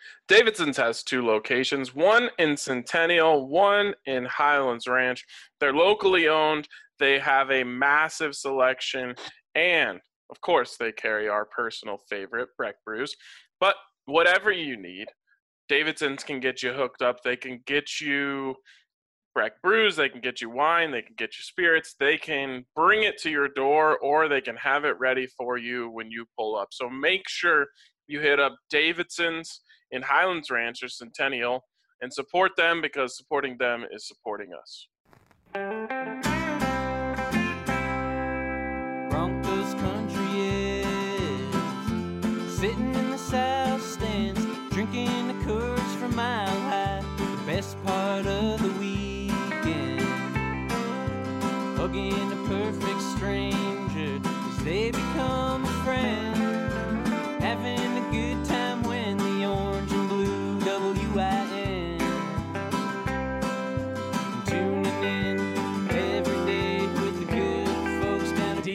Davidson's has two locations, one in Centennial, one in Highlands Ranch. They're locally owned. They have a massive selection, and of course, they carry our personal favorite, Breck Brews. But whatever you need, Davidson's can get you hooked up. They can get you Breck Brews, they can get you wine, they can get you spirits, they can bring it to your door, or they can have it ready for you when you pull up. So make sure you hit up Davidson's in Highlands Ranch or Centennial and support them, because supporting them is supporting us. Broncos country is sitting in the south stands, drinking the Coors from Mile High, the best part of the weekend, hugging a perfect stranger as they become a friend, having a good time when the orange and blue WIN, tuning in every day with the good folks down at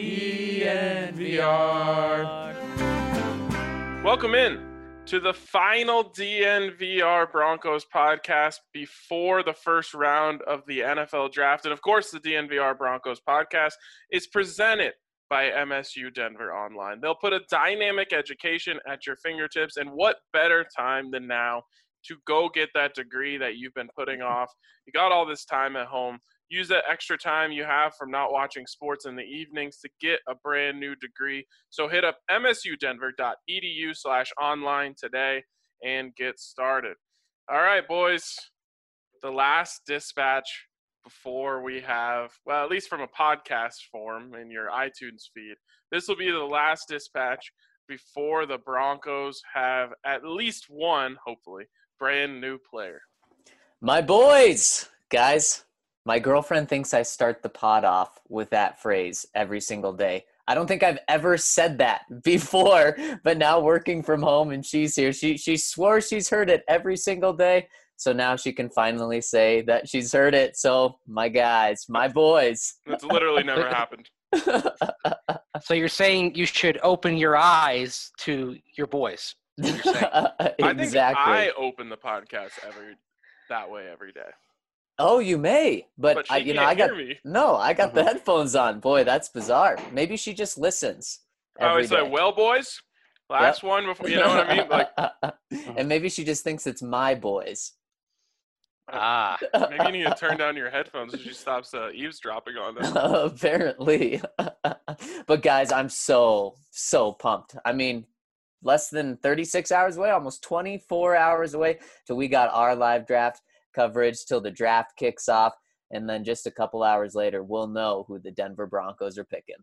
DNVR. Welcome in to the final DNVR Broncos podcast before the first round of the NFL draft. And of course, the DNVR Broncos podcast is presented by MSU Denver Online. They'll put a dynamic education at your fingertips, and what better time than now to go get that degree that you've been putting off. You got all this time at home. Use that extra time you have from not watching sports in the evenings to get a brand new degree. So hit up msudenver.edu/online today and get started. All right, boys, the last dispatch before we have, well, at least from a podcast form in your iTunes feed, this will be the last dispatch before the Broncos have at least one, hopefully, brand new player. My boys, guys. My girlfriend thinks I start the pod off with that phrase every single day. I don't think I've ever said that before, but now working from home and she's here, she swore she's heard it every single day. So now she can finally say that she's heard it. So my guys, my boys. That's literally never happened. So you're saying you should open your eyes to your boys. You're saying. Exactly. I think I open the podcast that way every day. Oh, you may, but she can't hear me. I got the headphones on. Boy, that's bizarre. Maybe she just listens. I always say, well, boys, last one before, you know what I mean? Like, and maybe she just thinks it's my boys. Maybe you need to turn down your headphones so she stops eavesdropping on them. Apparently. But guys, I'm so pumped. I mean, less than 36 hours away, almost 24 hours away till we got our live draft coverage, till the draft kicks off, and then just a couple hours later we'll know who the Denver Broncos are picking.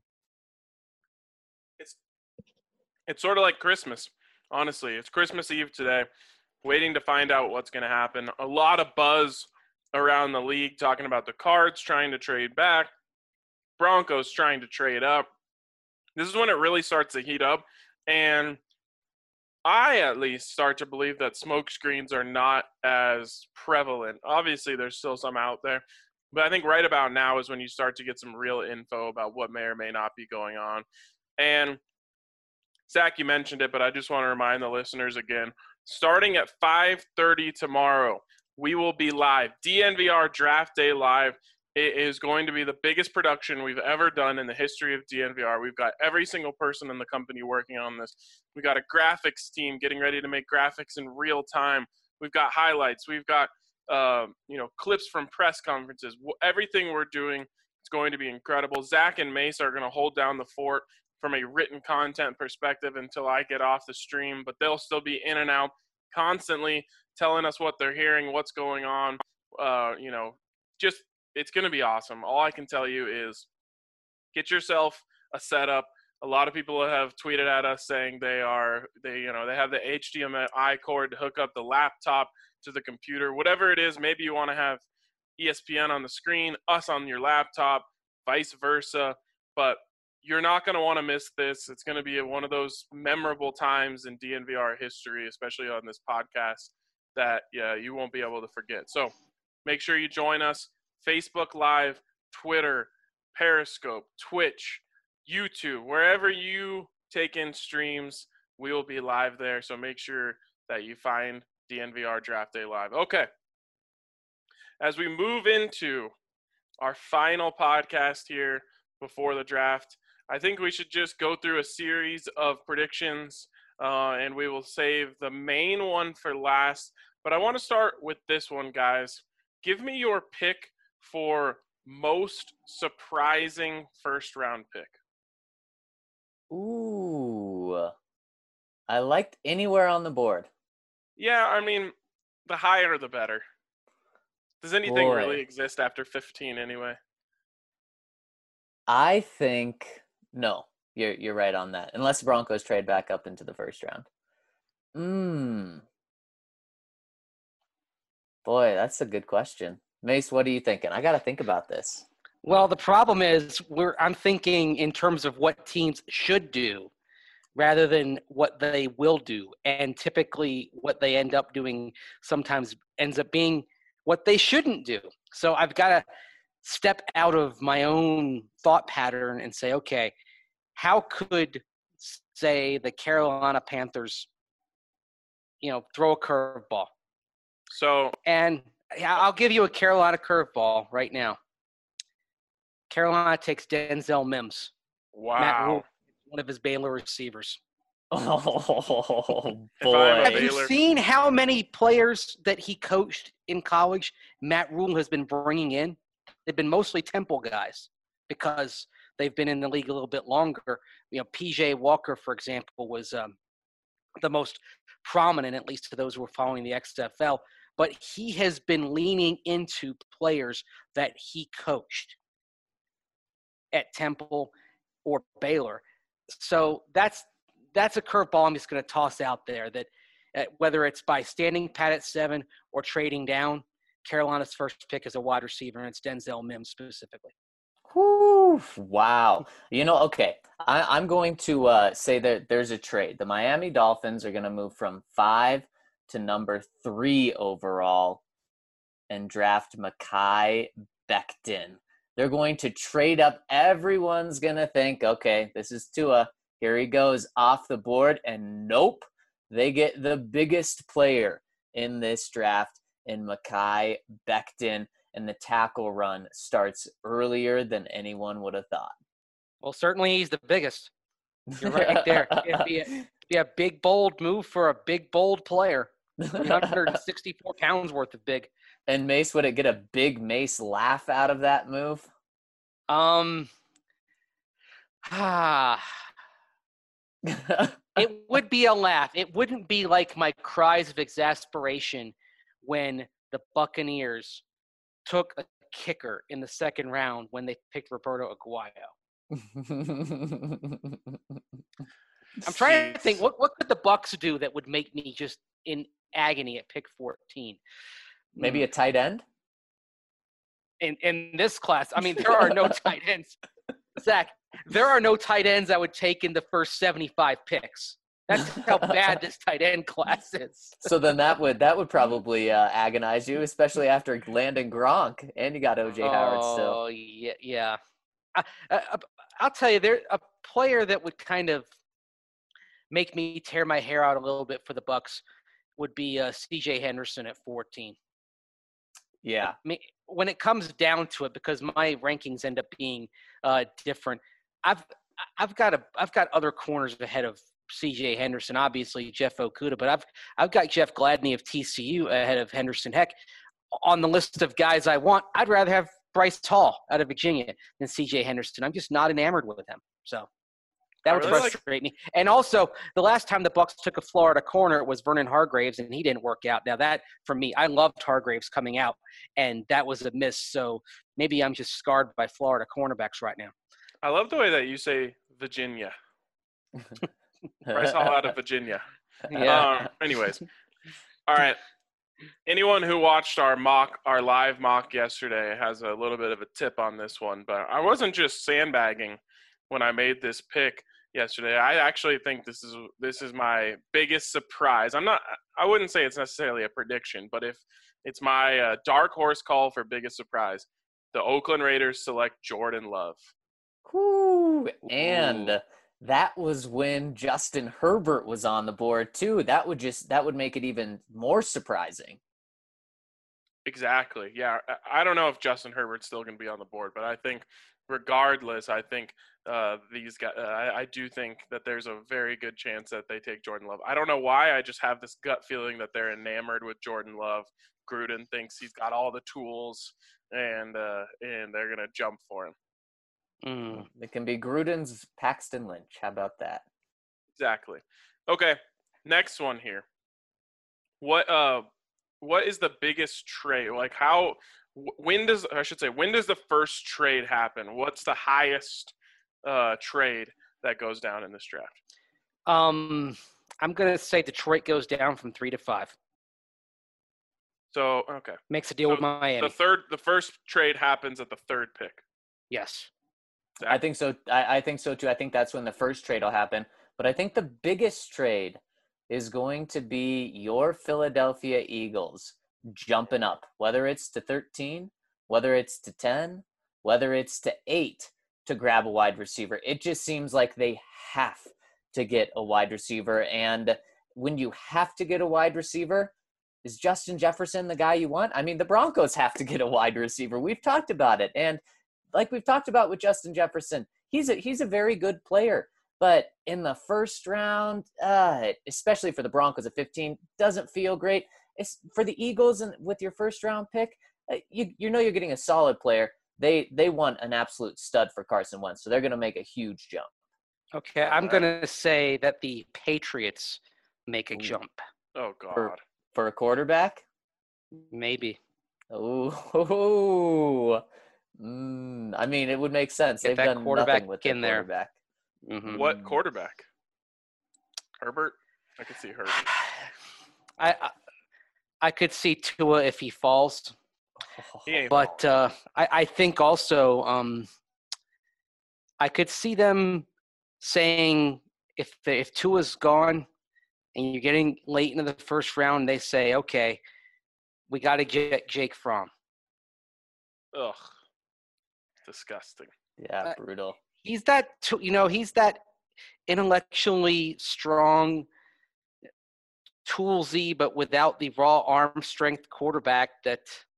It's sort of like Christmas, honestly. It's Christmas Eve today, waiting to find out what's going to happen. A lot of buzz around the league talking about the Cards trying to trade back, Broncos trying to trade up. This is when it really starts to heat up, and I at least start to believe that smoke screens are not as prevalent. Obviously, there's still some out there, but I think right about now is when you start to get some real info about what may or may not be going on. And Zach, you mentioned it, but I just want to remind the listeners again, starting at 5:30 tomorrow, we will be live. DNVR Draft Day Live. It is going to be the biggest production we've ever done in the history of DNVR. We've got every single person in the company working on this. We've got a graphics team getting ready to make graphics in real time. We've got highlights. We've got clips from press conferences. Everything we're doing is going to be incredible. Zach and Mace are going to hold down the fort from a written content perspective until I get off the stream, but they'll still be in and out constantly telling us what they're hearing, what's going on, it's going to be awesome. All I can tell you is get yourself a setup. A lot of people have tweeted at us saying they have the HDMI cord to hook up the laptop to the computer. Whatever it is, maybe you want to have ESPN on the screen, us on your laptop, vice versa. But you're not going to want to miss this. It's going to be one of those memorable times in DNVR history, especially on this podcast, that you won't be able to forget. So make sure you join us. Facebook Live, Twitter, Periscope, Twitch, YouTube, wherever you take in streams, we will be live there. So make sure that you find DNVR Draft Day Live. Okay. As we move into our final podcast here before the draft, I think we should just go through a series of predictions, and we will save the main one for last. But I want to start with this one, guys. Give me your pick for most surprising first-round pick. Ooh. I liked anywhere on the board. Yeah, I mean, the higher the better. Does anything Boy. really exist after 15 anyway? I think no. You're right on that. Unless the Broncos trade back up into the first round. Boy, that's a good question. Mace, what are you thinking? I got to think about this. Well, the problem is I'm thinking in terms of what teams should do rather than what they will do. And typically what they end up doing sometimes ends up being what they shouldn't do. So I've got to step out of my own thought pattern and say, okay, how could, say, the Carolina Panthers, throw a curveball? And I'll give you a Carolina curveball right now. Carolina takes Denzel Mims. Wow. Matt Rule, one of his Baylor receivers. Oh, If I'm a boy. Have you seen how many players that he coached in college Matt Rule has been bringing in? They've been mostly Temple guys because they've been in the league a little bit longer. P.J. Walker, for example, was the most prominent, at least to those who are following the XFL. But he has been leaning into players that he coached at Temple or Baylor. So that's a curveball I'm just going to toss out there that whether it's by standing pat at 7 or trading down, Carolina's first pick is a wide receiver, and it's Denzel Mims specifically. Whew, wow. Okay. I'm going to say that there's a trade. The Miami Dolphins are going to move from 5 to number 3 overall and draft Mekhi Becton. They're going to trade up. Everyone's going to think, okay, this is Tua. Here he goes off the board. And nope, they get the biggest player in this draft in Mekhi Becton. And the tackle run starts earlier than anyone would have thought. Well, certainly he's the biggest. You're right there. It'd be a big, bold move for a big, bold player. 364 pounds worth of big. And Mace, would it get a big Mace laugh out of that move? It would be a laugh. It wouldn't be like my cries of exasperation when the Buccaneers took a kicker in the second round when they picked Roberto Aguayo. I'm trying to think, what could the Bucs do that would make me just in agony at pick 14? Maybe a tight end? In this class, I mean, there are no tight ends. Zach, there are no tight ends I would take in the first 75 picks. That's how bad this tight end class is. So then that would probably agonize you, especially after landing Gronk, and you got O.J. Howard still. Oh, yeah. I'll tell you, there's a player that would kind of make me tear my hair out a little bit for the Bucs would be C.J. Henderson at 14. Yeah. I mean, when it comes down to it, because my rankings end up being different, I've got other corners ahead of C.J. Henderson, obviously Jeff Okudah, but I've got Jeff Gladney of TCU ahead of Henderson. Heck, on the list of guys I want, I'd rather have Bryce Hall out of Virginia than C.J. Henderson. I'm just not enamored with him. So that would frustrate me. And also, the last time the Bucs took a Florida corner, it was Vernon Hargraves, and he didn't work out. Now that, for me, I loved Hargraves coming out, and that was a miss. So maybe I'm just scarred by Florida cornerbacks right now. I love the way that you say Virginia. Bryce Hall out of Virginia. Yeah. Anyways, all right. Anyone who watched our live mock yesterday has a little bit of a tip on this one, but I wasn't just sandbagging when I made this pick yesterday. I actually think this is my biggest surprise. I wouldn't say it's necessarily a prediction, but if it's my dark horse call for biggest surprise, the Oakland Raiders select Jordan Love. Ooh, and that was when Justin Herbert was on the board too. That would make it even more surprising. Exactly. Yeah. I don't know if Justin Herbert's still going to be on the board, but I think regardless, I think these guys, I do think that there's a very good chance that they take Jordan Love. I don't know why. I just have this gut feeling that they're enamored with Jordan Love. Gruden thinks he's got all the tools, and they're going to jump for him. It can be Gruden's Paxton Lynch. How about that? Exactly. Okay. Next one here. What is the biggest trade? Like when does the first trade happen? What's the highest trade that goes down in this draft? I'm gonna say Detroit goes down from 3 to 5. So okay. Makes a deal with Miami. The first trade happens at the third pick. Yes. Exactly. I think so. I think so too. I think that's when the first trade will happen. But I think the biggest trade is going to be your Philadelphia Eagles jumping up, whether it's to 13, whether it's to 10, whether it's to 8 to grab a wide receiver. It just seems like they have to get a wide receiver. And when you have to get a wide receiver, is Justin Jefferson the guy you want? I mean, the Broncos have to get a wide receiver. We've talked about it. And like we've talked about with Justin Jefferson, he's a very good player. But in the first round, especially for the Broncos at 15, doesn't feel great. It's for the Eagles and with your first round pick, you know you're getting a solid player. They want an absolute stud for Carson Wentz, so they're going to make a huge jump. Okay, I'm going to say that the Patriots make a jump. Oh, God. For a quarterback? Maybe. Oh. I mean, it would make sense. Get They've done nothing with their quarterback. Mm-hmm. What quarterback? Herbert? I could see Herbert. I could see Tua if he falls. But I think also I could see them saying if Tua's gone and you're getting late into the first round, they say, okay, we got to get Jake Fromm. Ugh. Disgusting. Yeah, brutal. He's that intellectually strong, toolsy, but without the raw arm strength quarterback that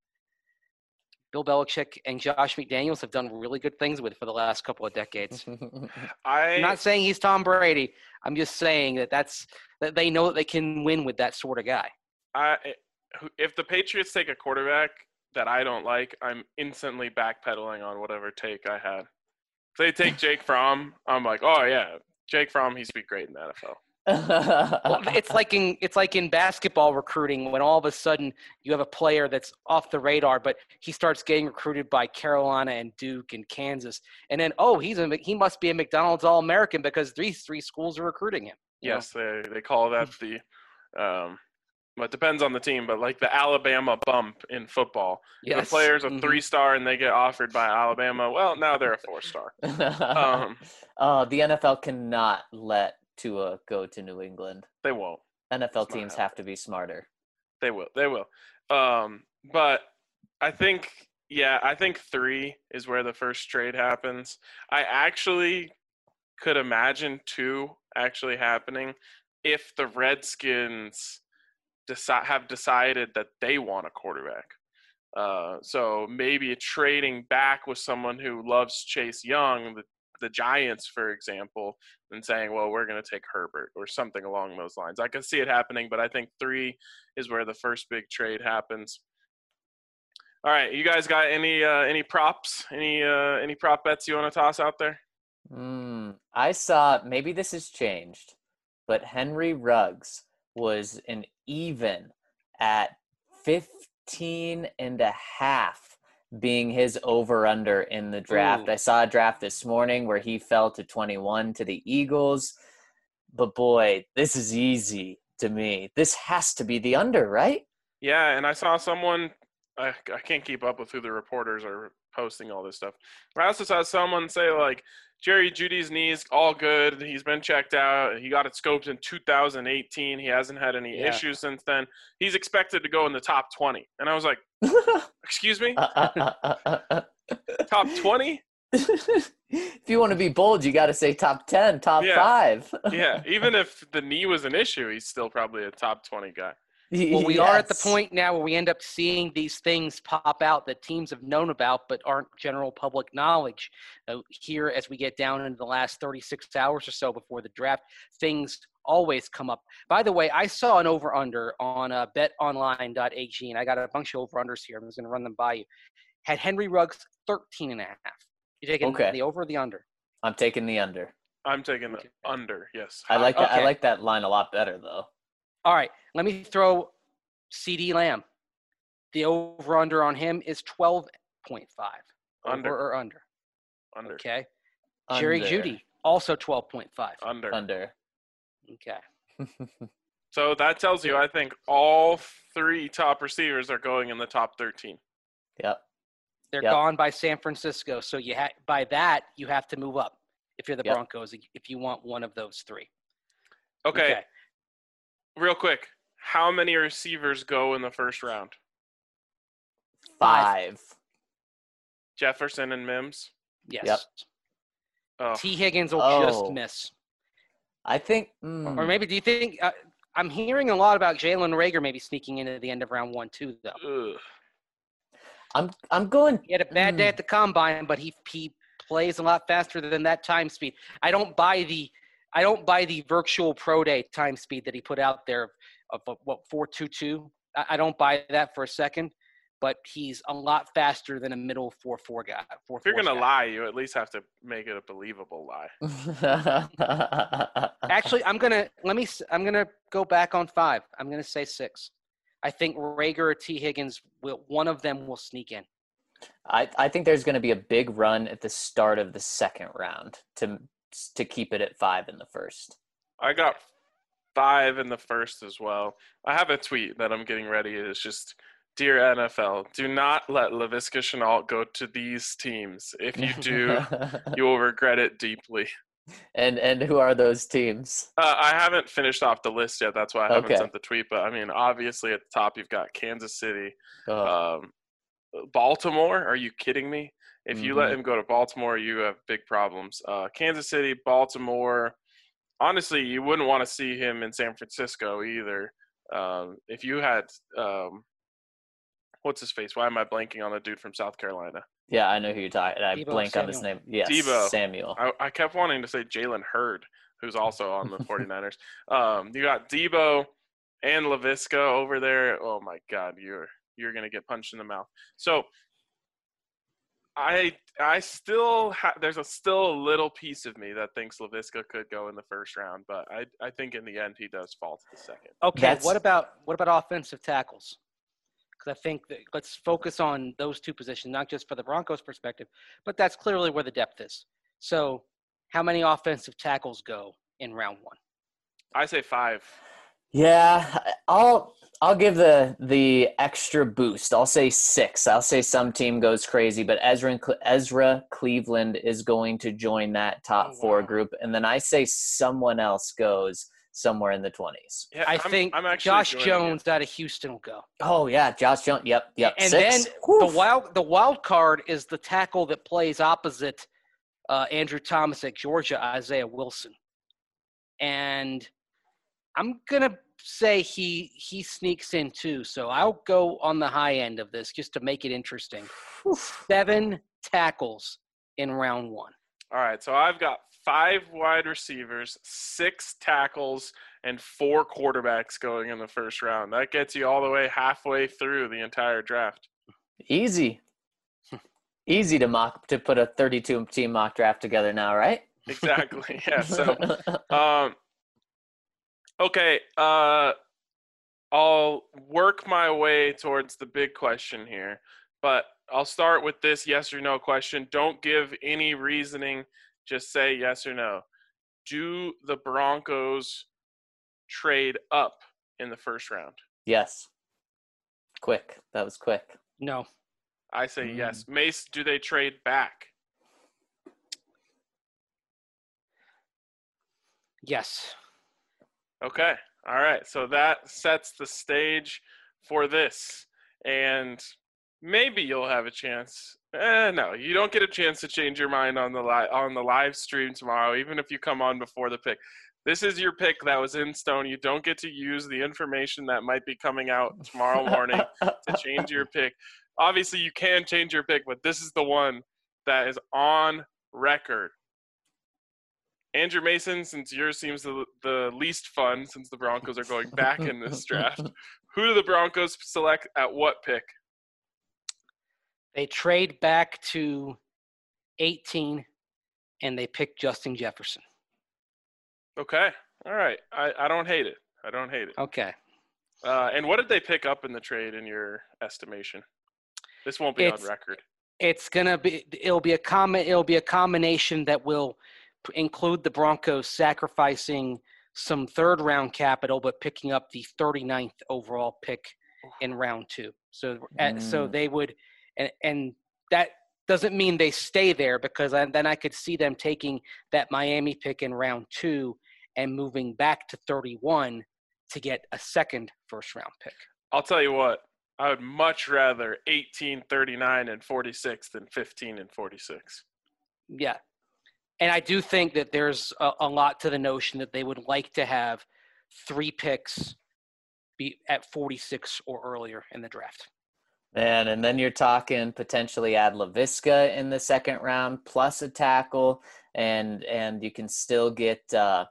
Bill Belichick and Josh McDaniels have done really good things with for the last couple of decades. I'm not saying he's Tom Brady. I'm just saying that they know that they can win with that sort of guy. If the Patriots take a quarterback that I don't like, I'm instantly backpedaling on whatever take I had. If they take Jake Fromm, I'm like, oh yeah, Jake Fromm, he's be great in the NFL. Well, it's like in basketball recruiting when all of a sudden you have a player that's off the radar, but he starts getting recruited by Carolina and Duke and Kansas, and then he must be a McDonald's All-American because these three schools are recruiting him. Yes, they call that the it depends on the team, but like the Alabama bump in football. Yes. If a player's a 3-star and they get offered by Alabama, well, now they're a 4-star. The NFL cannot let Tua go to New England. They won't. NFL teams have to be smarter. They will. But I think 3 is where the first trade happens. I actually could imagine 2 actually happening if the Redskins have decided that they want a quarterback. So maybe trading back with someone who loves Chase Young, the Giants, for example, and saying, well, we're going to take Herbert or something along those lines. I can see it happening, but I think 3 is where the first big trade happens. All right, you guys got any props? Any prop bets you want to toss out there? I saw, maybe this has changed, but Henry Ruggs was an even at 15.5 being his over-under in the draft. Ooh. I saw a draft this morning where he fell to 21 to the Eagles. But boy, this is easy to me. This has to be the under, right? Yeah, and I saw someone I can't keep up with who the reporters are posting all this stuff. I also saw someone say, like, Jerry Jeudy's knee's all good. He's been checked out. He got it scoped in 2018. He hasn't had any issues since then. He's expected to go in the top 20. And I was like, excuse me? Top 20? If you want to be bold, you got to say top 10, top Yeah. 5. Yeah, even if the knee was an issue, he's still probably a top 20 guy. Well, we are at the Yes. point now where we end up seeing these things pop out that teams have known about but aren't general public knowledge. Here, as we get down into the last 36 hours or so before the draft, things always come up. By the way, I saw an over-under on betonline.ag, and I got a bunch of over-unders here. I'm just going to run them by you. Had Henry Ruggs 13.5. You taking Okay. the over or the under? I'm taking the under. I'm taking the Okay. under, yes. I like that. I Okay. like that line a lot better, though. All right, let me throw CD Lamb. The over-under on him is 12.5. Under. Over or under? Under. Okay. Jerry Under. Jeudy, also 12.5. Under. Under. Okay. So that tells you, I think, all 3 top receivers are going in the top 13. Yep. They're Yep. gone by San Francisco, so by that you have to move up if you're the Yep. Broncos if you want one of those 3. Okay, real quick. How many receivers go in the first round? 5. Jefferson and Mims? Yes. Yep. Oh, T. Higgins will Oh. just miss. I think. Or maybe do you think I'm hearing a lot about Jalen Rager maybe sneaking into the end of round 1 too, though. ugh. I'm going. He had a bad day at the combine, but he plays a lot faster than that time speed. I don't buy the virtual pro day time speed that he put out there of 4.22. I don't buy that for a second, but he's a lot faster than a middle 4.4 guy. If you're going to lie, you at least have to make it a believable lie. Actually, I'm gonna go back on 5. I'm gonna say 6. I think Rager or T. Higgins one of them will sneak in. I think there's going to be a big run at the start of the second round to keep it at 5 in the first. I got 5 in the first as well. I have a tweet that I'm getting ready. It's just, dear NFL, do not let Laviska Shenault go to these teams. If you do, you will regret it deeply. And who are those teams? I haven't finished off the list yet. That's why I haven't Okay. sent the tweet. But, I mean, obviously at the top you've got Kansas City. Oh, Baltimore? Are you kidding me? If you let him go to Baltimore, you have big problems. Kansas City, Baltimore. Honestly, you wouldn't want to see him in San Francisco either. If you had what's his face? Why am I blanking on the dude from South Carolina? yeah, I know who you're talking. I Deebo blank on his Samuel. name. Yes, Deebo. Samuel. I kept wanting to say Jalen Hurd, who's also on the 49ers. You got Deebo and Laviska over there. Oh my God, you're gonna get punched in the mouth. So I still there's still a little piece of me that thinks Laviska could go in the first round, but I think in the end he does fall to the second. Okay, what about offensive tackles? Because I think that let's focus on those 2 positions, not just for the Broncos' perspective, but that's clearly where the depth is. So, how many offensive tackles go in round 1? I say 5. Yeah, I'll give the extra boost. I'll say 6. I'll say some team goes crazy, but Ezra Cleveland is going to join that top 4 group, and then I say someone else goes somewhere in the 20s. Yeah, I think I'm actually Josh joining Jones out of Houston will go. Oh yeah, Josh Jones. Yep. And 6. then Whew. the wild card is the tackle that plays opposite Andrew Thomas at Georgia, Isaiah Wilson. And I'm gonna say he sneaks in too. So I'll go on the high end of this just to make it interesting. 7 tackles in round 1. All right, so I've got 5 wide receivers, 6 tackles, and 4 quarterbacks going in the first round. That gets you all the way halfway through the entire draft. Easy to put a 32 team mock draft together now, right? Exactly. Yeah. So, okay. I'll work my way towards the big question here, but I'll start with this yes or no question. Don't give any reasoning. Just say yes or no. Do the Broncos trade up in the first round? Yes. Quick. That was quick. No. I say yes. Mace, do they trade back? Yes. Okay. All right. So that sets the stage for this. And maybe you'll have a chance. No, you don't get a chance to change your mind on the live stream tomorrow, even if you come on before the pick. This is your pick that was in stone. You don't get to use the information that might be coming out tomorrow morning to change your pick. Obviously, you can change your pick, but this is the one that is on record. Andrew Mason, since yours seems the least fun, since the Broncos are going back in this draft, who do the Broncos select at what pick? They trade back to 18, and they pick Justin Jefferson. Okay. All right. I don't hate it. Okay. And what did they pick up in the trade in your estimation? This won't be on record. It'll be a combination that will include the Broncos sacrificing some third-round capital, but picking up the 39th overall pick in round 2. So they would, and that doesn't mean they stay there, because then I could see them taking that Miami pick in round 2 and moving back to 31 to get a second first-round pick. I'll tell you what, I would much rather 18, 39, and 46 than 15 and 46. Yeah. And I do think that there's a lot to the notion that they would like to have 3 picks be at 46 or earlier in the draft. Man, and then you're talking potentially add Laviska in the second round plus a tackle, and you can still get a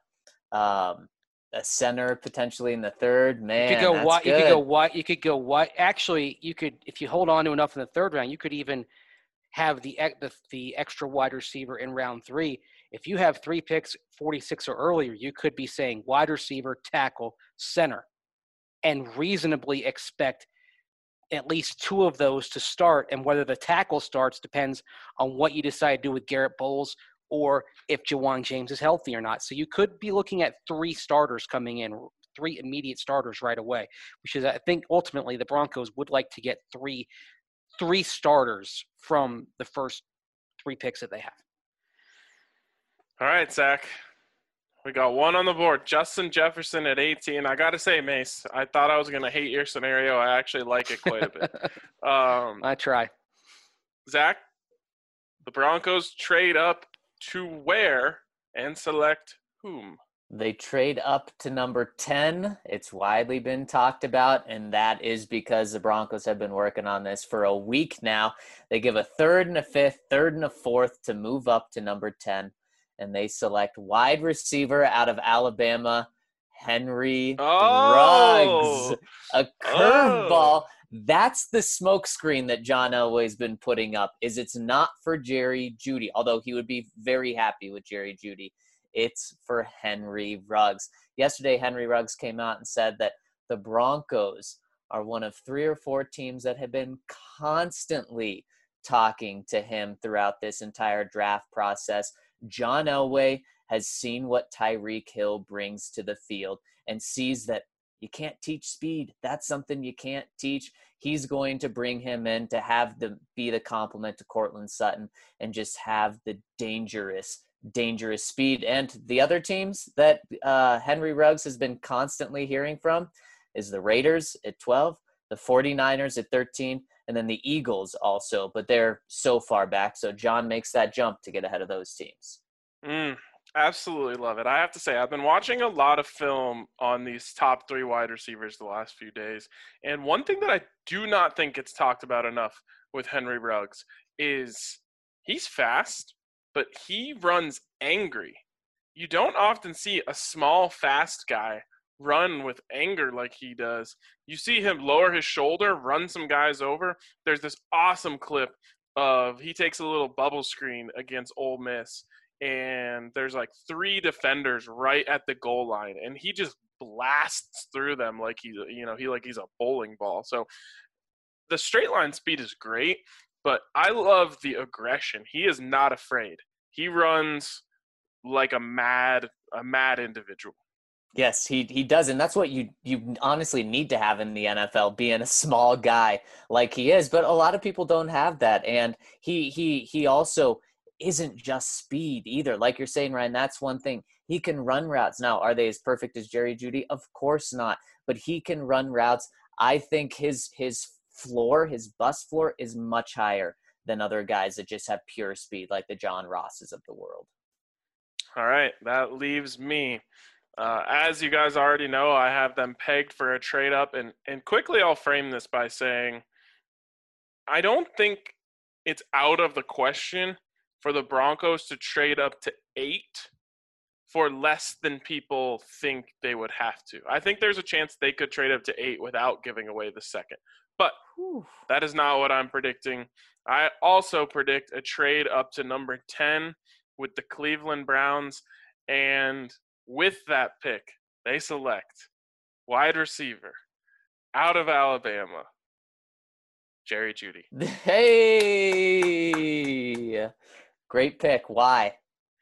center potentially in the third. Man, you could go that's good. You could go what? Actually, you could, if you hold on to enough in the third round, you could even have the extra wide receiver in round 3. If you have 3 picks, 46 or earlier, you could be saying wide receiver, tackle, center, and reasonably expect at least 2 of those to start. And whether the tackle starts depends on what you decide to do with Garrett Bowles or if Jawan James is healthy or not. So you could be looking at 3 starters coming in, 3 immediate starters right away, which is, I think, ultimately the Broncos would like to get 3 starters from the first 3 picks that they have. All right, Zach. We got one on the board. Justin Jefferson at 18. I got to say, Mace, I thought I was going to hate your scenario. I actually like it quite a bit. I try. Zach, the Broncos trade up to where and select whom? They trade up to number 10. It's widely been talked about, and that is because the Broncos have been working on this for a week now. They give a 3rd and a 5th, 3rd and a 4th to move up to number 10, and they select wide receiver out of Alabama, Henry Ruggs. A curveball. That's the smokescreen that John Elway's been putting up, is it's not for Jerry Jeudy, although he would be very happy with Jerry Jeudy. It's for Henry Ruggs. Yesterday, Henry Ruggs came out and said that the Broncos are one of 3 or 4 teams that have been constantly talking to him throughout this entire draft process. John Elway has seen what Tyreek Hill brings to the field and sees that you can't teach speed. That's something you can't teach. He's going to bring him in to be the complement to Courtland Sutton and just have the dangerous speed. And the other teams that Henry Ruggs has been constantly hearing from is the Raiders at 12, the 49ers at 13, and then the Eagles also, but they're so far back. So John makes that jump to get ahead of those teams. Absolutely love it. I have to say, I've been watching a lot of film on these top 3 wide receivers the last few days. And one thing that I do not think gets talked about enough with Henry Ruggs is he's fast, but he runs angry. You don't often see a small, fast guy run with anger like he does. You see him lower his shoulder, run some guys over. There's this awesome clip of he takes a little bubble screen against Ole Miss, and there's like 3 defenders right at the goal line, and he just blasts through them like he's a bowling ball. So the straight line speed is great, but I love the aggression. He is not afraid. He runs like a mad individual. Yes, he does, and that's what you honestly need to have in the NFL, being a small guy like he is. But a lot of people don't have that, and he also isn't just speed either. Like you're saying, Ryan, that's one thing. He can run routes. Now, are they as perfect as Jerry Jeudy? Of course not, but he can run routes. I think his floor, his bust floor, is much higher than other guys that just have pure speed, like the John Rosses of the world. All right, that leaves me. As you guys already know, I have them pegged for a trade up, and quickly I'll frame this by saying I don't think it's out of the question for the Broncos to trade up to 8 for less than people think they would have to. I think there's a chance they could trade up to 8 without giving away the second. But that is not what I'm predicting. I also predict a trade up to number 10 with the Cleveland Browns, and with that pick, they select wide receiver out of Alabama, Jerry Jeudy. Hey, great pick. Why?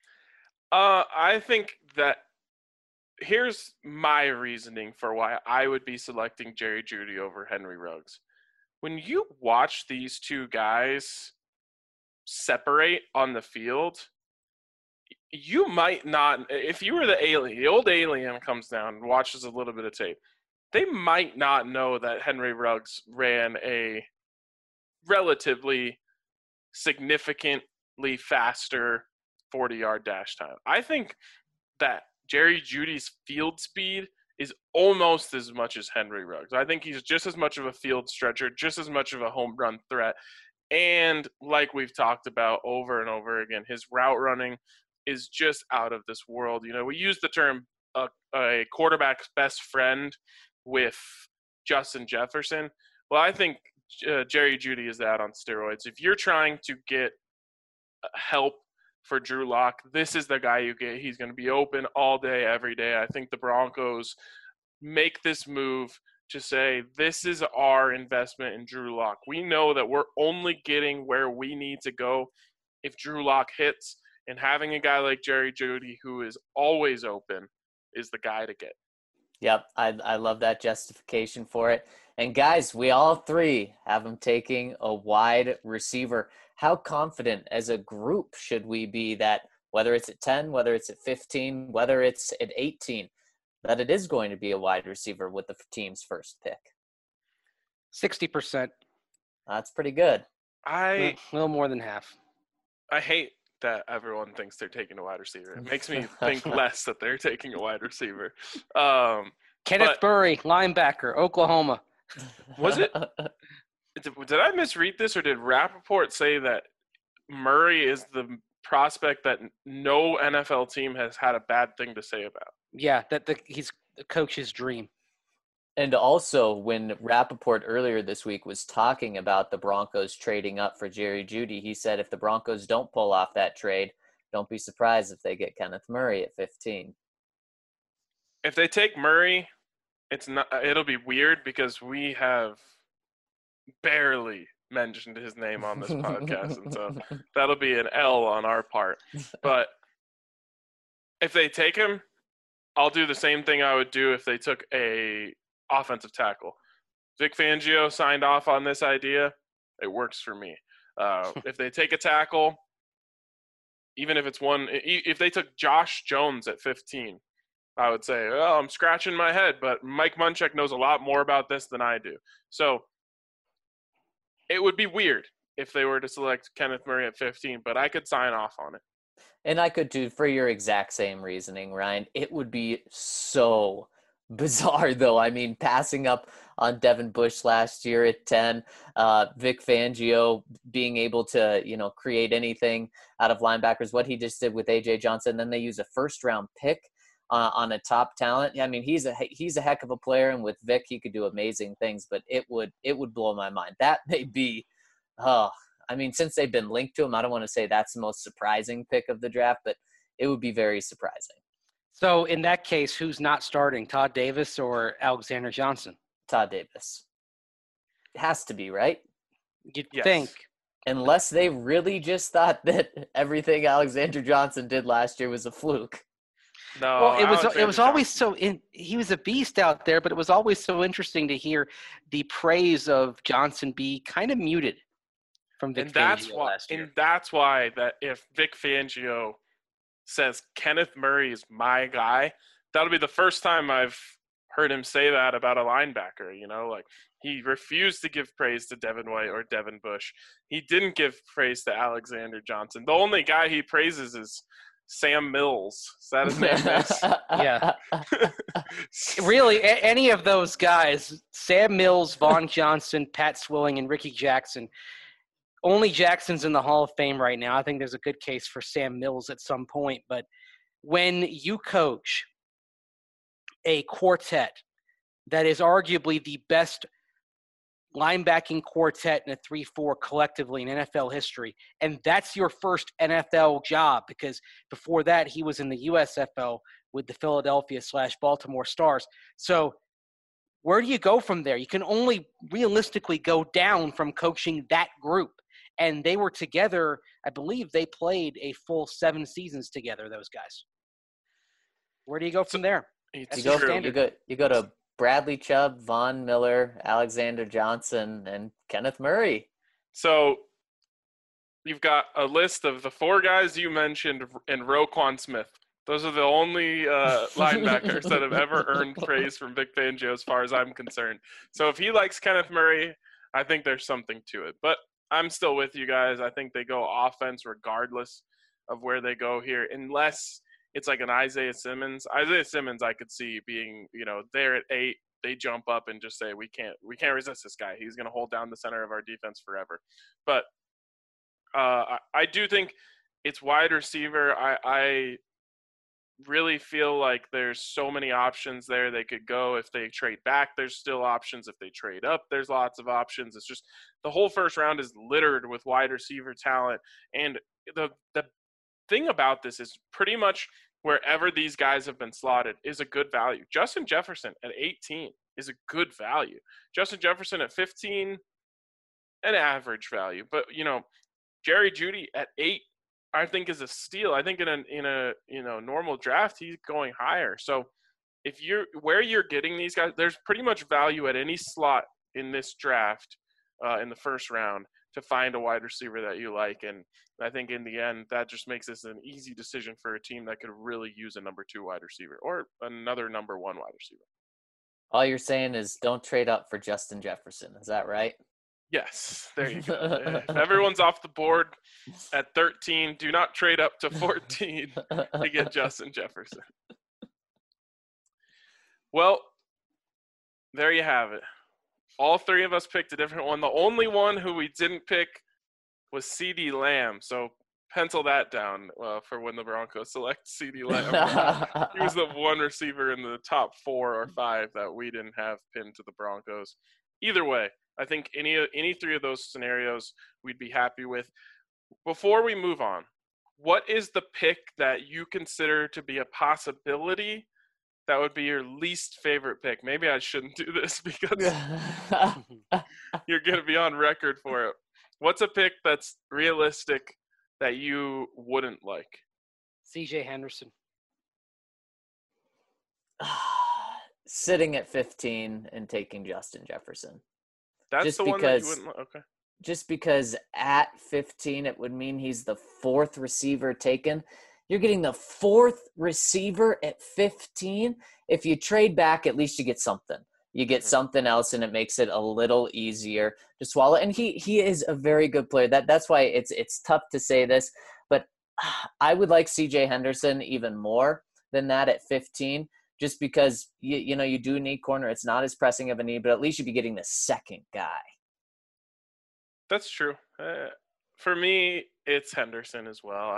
I think that here's my reasoning for why I would be selecting Jerry Jeudy over Henry Ruggs. When you watch these two guys separate on the field, you might not, if you were the old alien comes down and watches a little bit of tape, they might not know that Henry Ruggs ran a relatively significantly faster 40-yard dash time. I think that Jerry Jeudy's field speed is almost as much as Henry Ruggs. I think he's just as much of a field stretcher, just as much of a home run threat. And like we've talked about over and over again, his route running is just out of this world. You know, we use the term a quarterback's best friend with Justin Jefferson. Well, I think Jerry Jeudy is that on steroids. If you're trying to get help for Drew Lock, this is the guy you get. He's going to be open all day, every day. I think the Broncos make this move to say, this is our investment in Drew Lock. We know that we're only getting where we need to go if Drew Lock hits, and having a guy like Jerry Jeudy who is always open is the guy to get. Yep, I love that justification for it. And guys, we all three have him taking a wide receiver. How confident as a group should we be that whether it's at 10, whether it's at 15, whether it's at 18, that it is going to be a wide receiver with the team's first pick? 60%. That's pretty good. A little more than half. I hate that everyone thinks they're taking a wide receiver. It makes me think less that they're taking a wide receiver. Kenneth Murray, linebacker, Oklahoma. Was it? Did I misread this, or did Rappaport say that Murray is the prospect that no NFL team has had a bad thing to say about? Yeah, he's the coach's dream. And also, when Rappaport earlier this week was talking about the Broncos trading up for Jerry Jeudy, he said if the Broncos don't pull off that trade, don't be surprised if they get Kenneth Murray at 15. If they take Murray, it'll be weird because we have barely mentioned his name on this podcast, and so that'll be an L on our part. But if they take him, I'll do the same thing I would do if they took a offensive tackle. Vic Fangio signed off on this idea. It works for me. If they take a tackle, even if it's one, if they took Josh Jones at 15, I would say, well, I'm scratching my head, but Mike Munchak knows a lot more about this than I do. So it would be weird if they were to select Kenneth Murray at 15, but I could sign off on it. And I could do, for your exact same reasoning, Ryan, it would be so bizarre, though. I mean, passing up on Devin Bush last year at 10, Vic Fangio being able to, create anything out of linebackers, what he just did with A.J. Johnson. Then they use a first-round pick on a top talent. I mean, he's a heck of a player, and with Vic, he could do amazing things, but it would blow my mind. That may be, since they've been linked to him, I don't want to say that's the most surprising pick of the draft, but it would be very surprising. So in that case, who's not starting, Todd Davis or Alexander Johnson? Todd Davis. It has to be, right? You'd think. Unless they really just thought that everything Alexander Johnson did last year was a fluke. No, well, it was always he was a beast out there, but it was always so interesting to hear the praise of Johnson be kind of muted from Vic Fangio last year. And that's why that if Vic Fangio says Kenneth Murray is my guy, that'll be the first time I've heard him say that about a linebacker. You know, like he refused to give praise to Devin White or Devin Bush. He didn't give praise to Alexander Johnson. The only guy he praises is Sam Mills. Is that his name? Yeah. Really, any of those guys, Sam Mills, Vaughn Johnson, Pat Swilling, and Ricky Jackson. Only Jackson's in the Hall of Fame right now. I think there's a good case for Sam Mills at some point. But when you coach a quartet that is arguably the best linebacking quartet in a 3-4 collectively in NFL history, and that's your first NFL job, because before that he was in the USFL with the Philadelphia/Baltimore Stars. So where do you go from there? You can only realistically go down from coaching that group. And they were together, I believe they played a full 7 seasons together, those guys. Where do you go from there? You go to Bradley Chubb, Von Miller, Alexander Johnson, and Kenneth Murray. So you've got a list of the 4 guys you mentioned and Roquan Smith. Those are the only linebackers that have ever earned praise from Vic Fangio as far as I'm concerned. So if he likes Kenneth Murray, I think there's something to it. But I'm still with you guys. I think they go offense regardless of where they go here, unless it's like an Isaiah Simmons. Isaiah Simmons I could see being, there at 8, they jump up and just say, we can't resist this guy. He's going to hold down the center of our defense forever. But I do think it's wide receiver. I really feel like there's so many options there they could go. If they trade back, there's still options. If they trade up, there's lots of options. It's just the whole first round is littered with wide receiver talent. And the thing about this is pretty much wherever these guys have been slotted is a good value. Justin Jefferson at 18 is a good value. Justin Jefferson at 15, an average value. But, Jerry Jeudy at 8, I think is a steal. I think in a normal draft he's going higher. So if where you're getting these guys, there's pretty much value at any slot in this draft in the first round to find a wide receiver that you like. And I think in the end that just makes this an easy decision for a team that could really use a number 2 wide receiver or another number 1 wide receiver. All you're saying is don't trade up for Justin Jefferson. Is that right? Yes, there you go. If everyone's off the board at 13, do not trade up to 14 to get Justin Jefferson. Well, there you have it. All 3 of us picked a different one. The only one who we didn't pick was CeeDee Lamb. So pencil that down for when the Broncos select CeeDee Lamb. He was the one receiver in the top 4 or 5 that we didn't have pinned to the Broncos. Either way, I think any 3 of those scenarios we'd be happy with. Before we move on, what is the pick that you consider to be a possibility that would be your least favorite pick? Maybe I shouldn't do this because you're going to be on record for it. What's a pick that's realistic that you wouldn't like? C.J. Henderson. Sitting at 15 and taking Justin Jefferson. That's just the one that you wouldn't like? Okay. Just because at 15 it would mean he's the 4th receiver taken. You're getting the 4th receiver at 15. If you trade back, at least you get something. You get something else, and it makes it a little easier to swallow. And he is a very good player. That's why it's tough to say this, but I would like C.J. Henderson even more than that at 15. Just because, you do need corner. It's not as pressing of a need, but at least you'd be getting the second guy. That's true. For me, it's Henderson as well.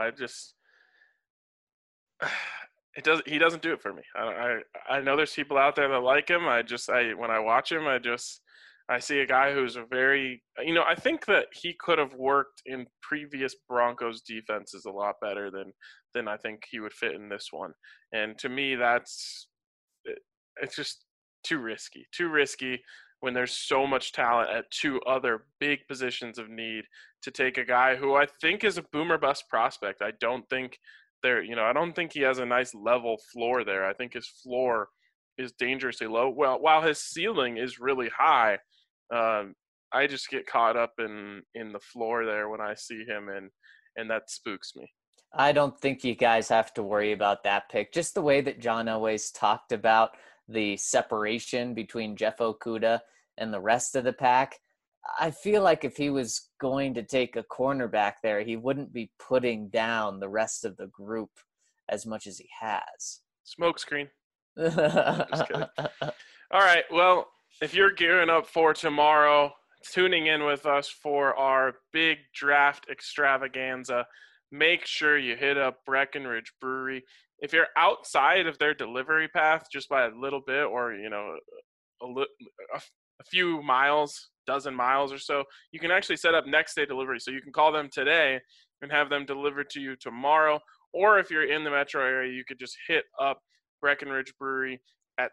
He doesn't do it for me. I know there's people out there that like him. When I watch him, I see a guy who's a very, I think that he could have worked in previous Broncos defenses a lot better than I think he would fit in this one. And to me, it's just too risky when there's so much talent at 2 other big positions of need to take a guy who I think is a boomer bust prospect. I don't think I don't think he has a nice level floor there. I think his floor is dangerously low. Well, while his ceiling is really high, I just get caught up in the floor there when I see him, and that spooks me. I don't think you guys have to worry about that pick. Just the way that John always talked about the separation between Jeff Okudah and the rest of the pack. I feel like if he was going to take a cornerback there, he wouldn't be putting down the rest of the group as much as he has. Smokescreen. Just kidding. All right. Well, if you're gearing up for tomorrow, tuning in with us for our big draft extravaganza, make sure you hit up Breckenridge Brewery. If you're outside of their delivery path just by a little bit, or a few miles, dozen miles or so, you can actually set up next day delivery. So you can call them today and have them delivered to you tomorrow. Or if you're in the metro area, you could just hit up Breckenridge Brewery at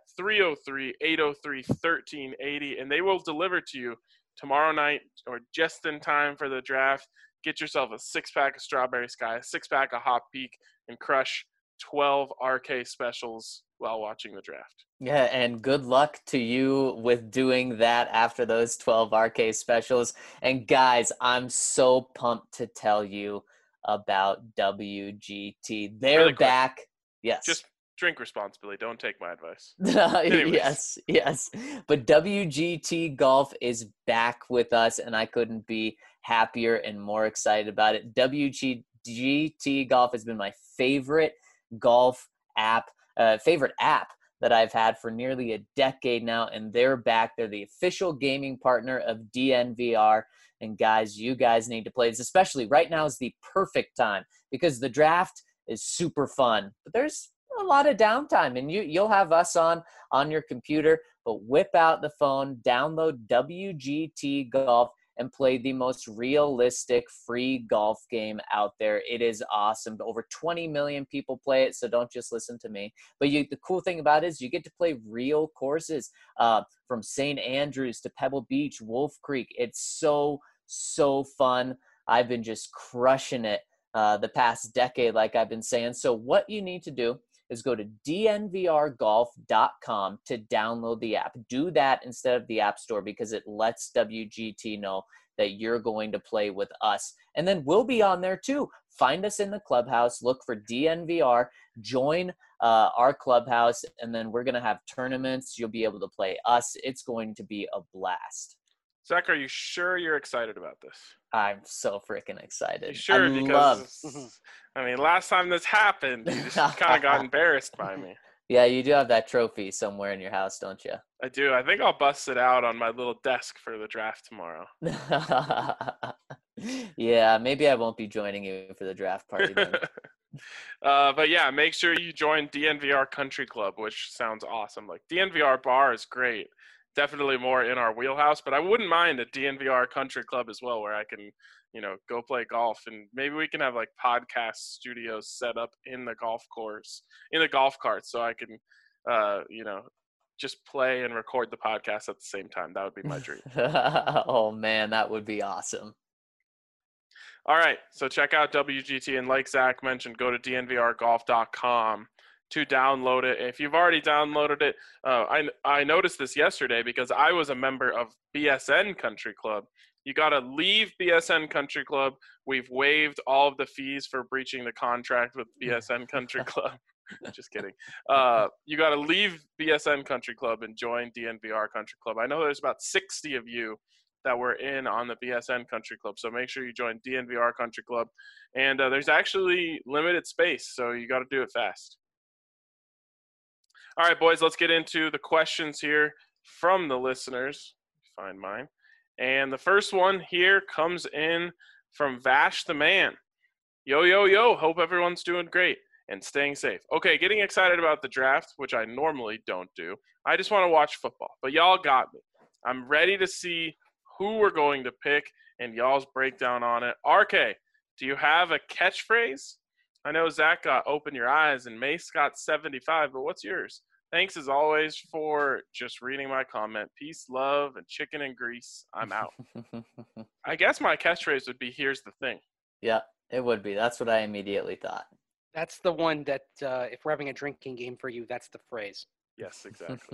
303-803-1380, and they will deliver to you tomorrow night or just in time for the draft. Get yourself a 6-pack of Strawberry Sky, a 6-pack of Hop Peak, and crush 12 RK specials while watching the draft. Yeah, and good luck to you with doing that after those 12 RK specials. And guys, I'm so pumped to tell you about WGT. They're Really quick. back. Yes. Just drink responsibly. Don't take my advice. Yes. But WGT Golf is back with us, and I couldn't be happier and more excited about it. WGT Golf has been my favorite golf app, favorite app that I've had for nearly a decade now, and they're back. They're the official gaming partner of DNVR. And guys, you guys need to play this, especially right now is the perfect time because the draft is super fun, but there's a lot of downtime, and you'll have us on your computer, but whip out the phone, download WGT Golf, and play the most realistic free golf game out there. It is awesome. Over 20 million people play it, so don't just listen to me. But the cool thing about it is you get to play real courses from St. Andrews to Pebble Beach, Wolf Creek. It's so fun. I've been just crushing it the past decade, like I've been saying. So what you need to do is go to dnvrgolf.com to download the app. Do that instead of the App Store because it lets WGT know that you're going to play with us. And then we'll be on there too. Find us in the clubhouse, look for DNVR, join our clubhouse, and then we're going to have tournaments. You'll be able to play us. It's going to be a blast. Zach, are you sure you're excited about this? I'm so freaking excited. You sure? I mean, last time this happened, you just kind of got embarrassed by me. Yeah, you do have that trophy somewhere in your house, don't you? I do. I think I'll bust it out on my little desk for the draft tomorrow. Yeah, maybe I won't be joining you for the draft party then. But yeah, make sure you join DNVR Country Club, which sounds awesome. Like DNVR Bar is great. Definitely more in our wheelhouse, but I wouldn't mind a DNVR Country Club as well, where I can, go play golf, and maybe we can have like podcast studios set up in the golf course, in the golf cart, so I can, just play and record the podcast at the same time. That would be my dream. Oh man, that would be awesome. All right, so check out WGT, and like Zach mentioned, go to dnvrgolf.com to download it. If you've already downloaded it, I noticed this yesterday because I was a member of BSN Country Club. You got to leave BSN Country Club. We've waived all of the fees for breaching the contract with BSN Country Club. Just kidding. You got to leave BSN Country Club and join DNVR Country Club. I know there's about 60 of you that were in on the BSN Country Club, so make sure you join DNVR Country Club. And there's actually limited space, so you got to do it fast. All right, boys, let's get into the questions here from the listeners. Find mine. And the first one here comes in from Vash the Man. Yo. Hope everyone's doing great and staying safe. Okay, getting excited about the draft, which I normally don't do. I just want to watch football, but y'all got me. I'm ready to see who we're going to pick and y'all's breakdown on it. RK, do you have a catchphrase? I know Zach got Open Your Eyes and Mace got 75, but what's yours? Thanks as always for just reading my comment. Peace, love, and chicken and grease. I'm out. I guess my catchphrase would be, here's the thing. Yeah, it would be. That's what I immediately thought. That's the one that if we're having a drinking game for you, that's the phrase. Yes, exactly.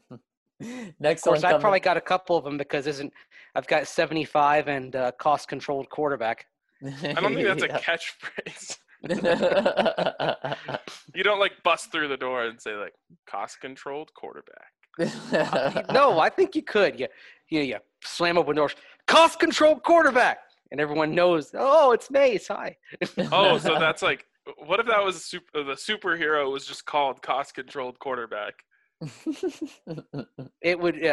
Next of course, one I've probably got a couple of them because I've got 75 and cost-controlled quarterback. I don't think that's a catchphrase. You don't like bust through the door and say like cost-controlled quarterback. No, I think you could. You slam open doors. Cost-controlled quarterback, and everyone knows. Oh, it's Mace. Hi. Oh, so that's like, what if that was the superhero was just called cost-controlled quarterback? It would.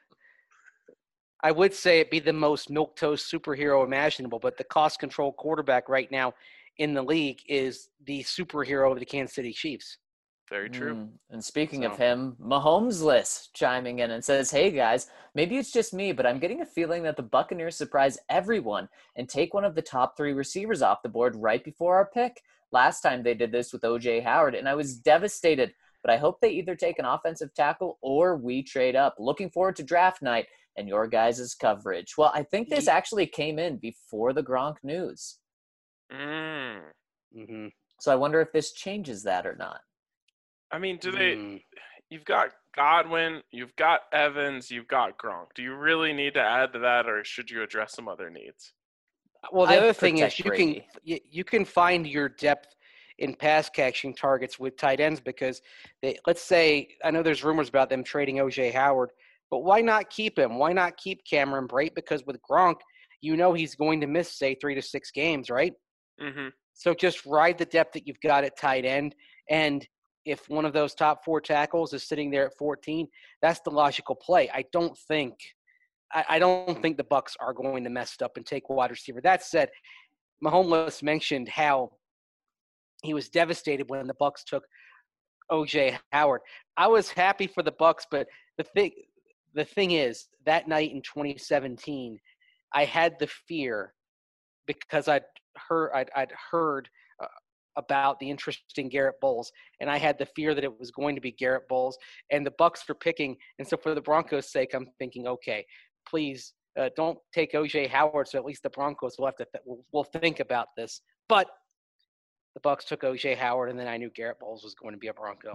I would say it'd be the most milquetoast superhero imaginable, but the cost-controlled quarterback right now in the league is the superhero of the Kansas City Chiefs. Very true. And speaking of So- him, Mahomes list chiming in and says, "Hey guys, maybe it's just me, but I'm getting a feeling that the Buccaneers surprise everyone and take one of the top 3 receivers off the board right before our pick. Last time they did this with O.J. Howard, and I was devastated. But I hope they either take an offensive tackle or we trade up. Looking forward to draft night and your guys' coverage." Well, I think this actually came in before the Gronk news. Mm-hmm. So I wonder if this changes that or not. I mean, you've got Godwin, you've got Evans, you've got Gronk. Do you really need to add to that, or should you address some other needs? Well, the I'd other thing is protect Brady. you can find your depth in pass catching targets with tight ends because let's say I know there's rumors about them trading O.J. Howard, but why not keep him? Why not keep Cameron Brate? Because with Gronk, you know he's going to miss say 3 to 6 games, right? Mm-hmm. So just ride the depth that you've got at tight end, and if one of those top 4 tackles is sitting there at 14, that's the logical play. I don't think the Bucs are going to mess it up and take wide receiver. That said, Mahomes mentioned how he was devastated when the Bucs took O.J. Howard. I was happy for the Bucs, but the thing is, that night in 2017, I had the fear because I'd heard about the interest in Garrett Bowles, and I had the fear that it was going to be Garrett Bowles, and the Bucs were picking. And so for the Broncos' sake, I'm thinking, okay, please don't take O.J. Howard, so at least the Broncos will have to will think about this. But the Bucs took O.J. Howard, and then I knew Garrett Bowles was going to be a Bronco.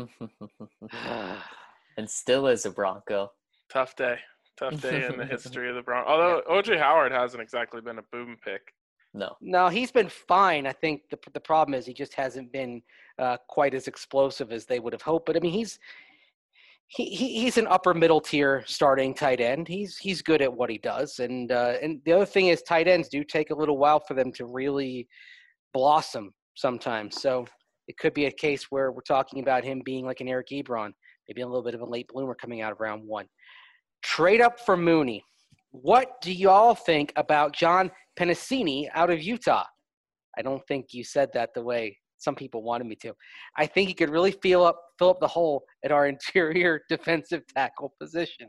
And still is a Bronco. Tough day in the history of the Broncos. Although O.J. Howard hasn't exactly been a boom pick. No, he's been fine. I think the problem is he just hasn't been quite as explosive as they would have hoped. But I mean, he's an upper middle tier starting tight end. He's good at what he does. And the other thing is tight ends do take a little while for them to really blossom sometimes. So it could be a case where we're talking about him being like an Eric Ebron, maybe a little bit of a late bloomer coming out of round 1. Trade up for Mooney. What do y'all think about John Pennicini out of Utah? I don't think you said that the way some people wanted me to. I think he could really fill up the hole at our interior defensive tackle position.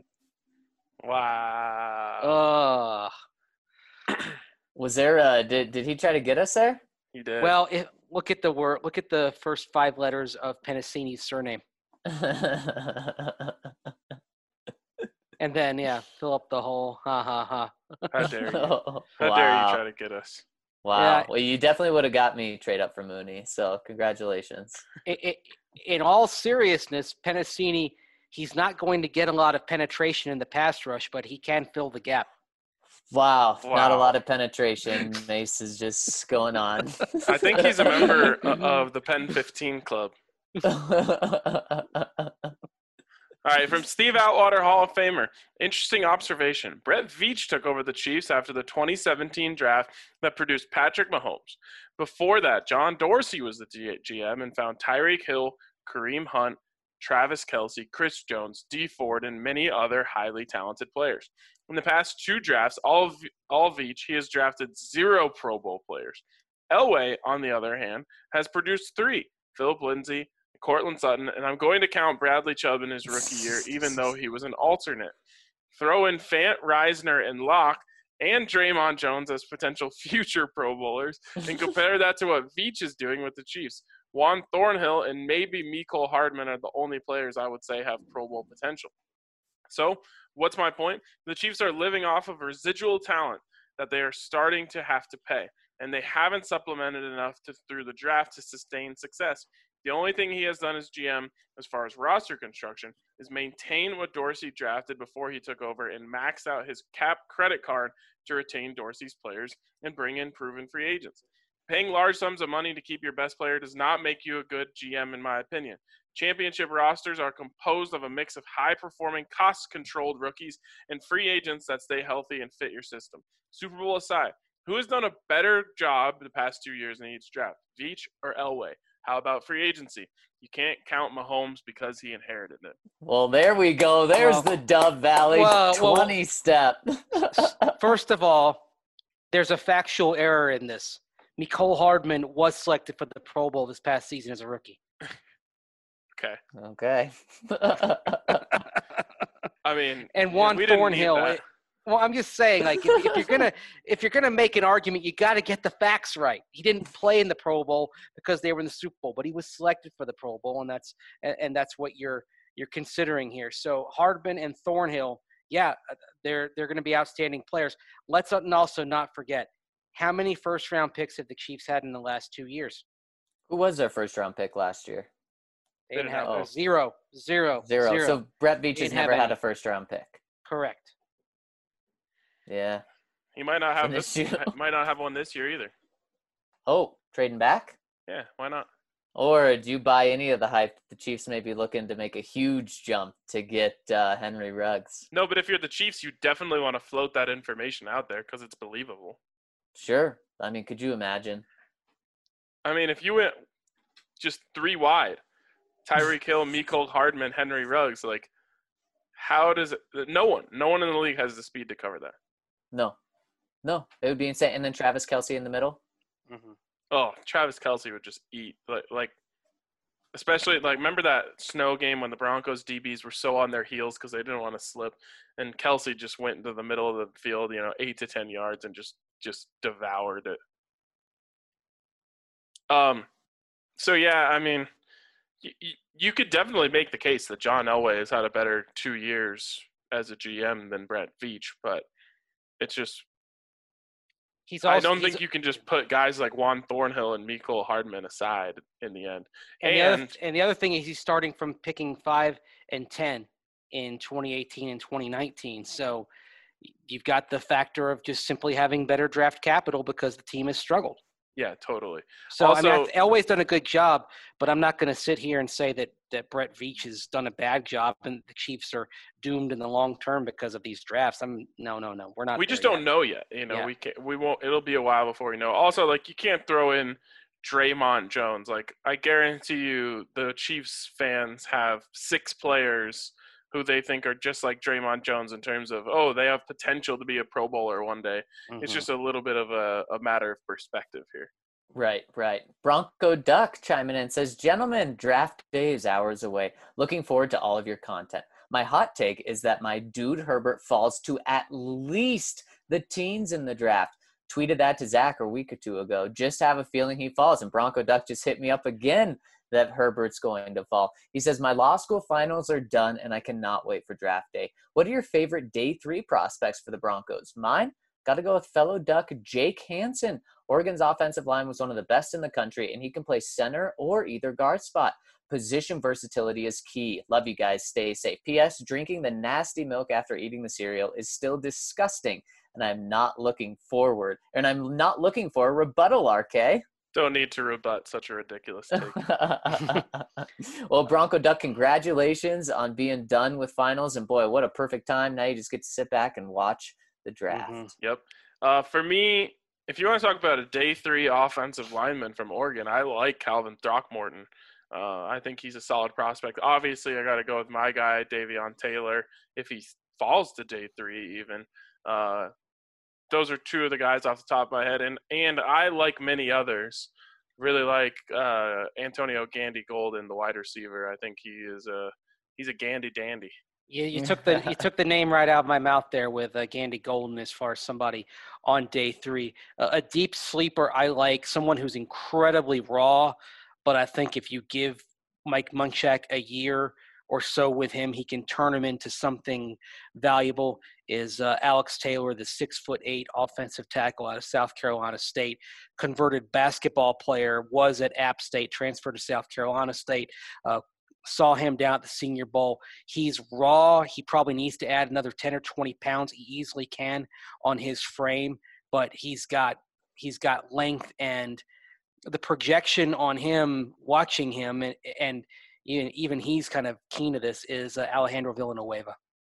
Wow. Was there did he try to get us there? He did. Well, look at the first 5 letters of Pennicini's surname. And then, fill up the hole. Ha, ha, ha. How dare you? How Wow. dare you try to get us? Wow. Yeah. Well, you definitely would have got me trade up for Mooney. So congratulations. In all seriousness, Pennicini, he's not going to get a lot of penetration in the pass rush, but he can fill the gap. Wow. Not a Wow. lot of penetration. Mace is just going on. I think he's a member of the Pen 15 Club. All right, from Steve Outwater, Hall of Famer. Interesting observation. Brett Veach took over the Chiefs after the 2017 draft that produced Patrick Mahomes. Before that, John Dorsey was the GM and found Tyreek Hill, Kareem Hunt, Travis Kelce, Chris Jones, Dee Ford, and many other highly talented players. In the past 2 drafts, all of each, he has drafted 0 Pro Bowl players. Elway, on the other hand, has produced 3, Philip Lindsay, Cortland Sutton, and I'm going to count Bradley Chubb in his rookie year, even though he was an alternate. Throw in Fant, Reisner, and Locke, and Draymond Jones as potential future Pro Bowlers, and compare that to what Veach is doing with the Chiefs. Juan Thornhill and maybe Mecole Hardman are the only players I would say have Pro Bowl potential. So, what's my point? The Chiefs are living off of residual talent that they are starting to have to pay, and they haven't supplemented enough through the draft to sustain success. The only thing he has done as GM, as far as roster construction, is maintain what Dorsey drafted before he took over and max out his cap credit card to retain Dorsey's players and bring in proven free agents. Paying large sums of money to keep your best player does not make you a good GM, in my opinion. Championship rosters are composed of a mix of high-performing, cost-controlled rookies and free agents that stay healthy and fit your system. Super Bowl aside, who has done a better job the past 2 years in each draft, Veach or Elway? How about free agency? You can't count Mahomes because he inherited it. Well, there we go. There's the Dove Valley 20 step. First of all, there's a factual error in this. Mecole Hardman was selected for the Pro Bowl this past season as a rookie. Okay. I mean, and Juan Thornhill. Well, I'm just saying, like, if you're gonna make an argument, you got to get the facts right. He didn't play in the Pro Bowl because they were in the Super Bowl, but he was selected for the Pro Bowl, and that's what you're considering here. So Hardman and Thornhill, yeah, they're going to be outstanding players. Let's also not forget, how many first-round picks have the Chiefs had in the last 2 years? Who was their first-round pick last year? They didn't have zero. So Brett Veach has never had a first-round pick. Correct. Yeah. He might not have might not have one this year either. Oh, trading back? Yeah, why not? Or do you buy any of the hype the Chiefs may be looking to make a huge jump to get Henry Ruggs? No, but if you're the Chiefs, you definitely want to float that information out there because it's believable. Sure. I mean, could you imagine? I mean, if you went just 3 wide, Tyreek Hill, Mecole Hardman, Henry Ruggs, like, how does it – no one in the league has the speed to cover that. No, it would be insane. And then Travis Kelce in the middle. Mm-hmm. Oh, Travis Kelce would just eat. Like, especially, like, remember that snow game when the Broncos DBs were so on their heels because they didn't want to slip, and Kelce just went into the middle of the field, 8 to 10 yards, and just devoured it. So, yeah, I mean, you could definitely make the case that John Elway has had a better 2 years as a GM than Brett Veach, but it's just I don't think you can just put guys like Juan Thornhill and Mecole Hardman aside in the end. And the other thing is he's starting from picking 5 and 10 in 2018 and 2019. So you've got the factor of just simply having better draft capital because the team has struggled. Yeah, totally. So, also, I mean, Elway's done a good job, but I'm not going to sit here and say that Brett Veach has done a bad job and the Chiefs are doomed in the long term because of these drafts. No. We're not. We just don't know yet. Yeah. We won't. It'll be a while before we know. Also, like, you can't throw in Draymond Jones. Like, I guarantee you the Chiefs fans have 6 players who they think are just like Draymond Jones in terms of, they have potential to be a Pro Bowler one day. Mm-hmm. It's just a little bit of a matter of perspective here. Right. Bronco Duck chiming in says, gentlemen, draft day is hours away. Looking forward to all of your content. My hot take is that my dude Herbert falls to at least the teens in the draft. Tweeted that to Zach a week or 2 ago. Just have a feeling he falls. And Bronco Duck just hit me up again that Herbert's going to fall. He says, my law school finals are done and I cannot wait for draft day. What are your favorite day 3 prospects for the Broncos? Mine? Got to go with fellow Duck Jake Hansen. Oregon's offensive line was one of the best in the country, and he can play center or either guard spot. Position versatility is key. Love you guys. Stay safe. P.S. Drinking the nasty milk after eating the cereal is still disgusting, and I'm not looking for a rebuttal, RK. Don't need to rebut such a ridiculous take. Well, Bronco Duck, congratulations on being done with finals. And, boy, what a perfect time. Now you just get to sit back and watch the draft. Mm-hmm. Yep. For me, if you want to talk about a day 3 offensive lineman from Oregon, I like Calvin Throckmorton. I think he's a solid prospect. Obviously, I got to go with my guy, Davion Taylor, if he falls to day 3 even. Those are 2 of the guys off the top of my head. And I, like many others, really like Antonio Gandy Golden, the wide receiver. I think he's a Gandy dandy. Yeah, you took the name right out of my mouth there with Gandy Golden as far as somebody on day 3. A deep sleeper I like, someone who's incredibly raw, but I think if you give Mike Munchak a year or so with him, he can turn him into something valuable, is Alex Taylor, the 6'8" offensive tackle out of South Carolina State, converted basketball player, was at App State, transferred to South Carolina State, saw him down at the Senior Bowl. He's raw. He probably needs to add another 10 or 20 pounds. He easily can on his frame, but he's got he's got length, and the projection on him, watching him, and even he's kind of keen to this, is Alejandro Villanueva.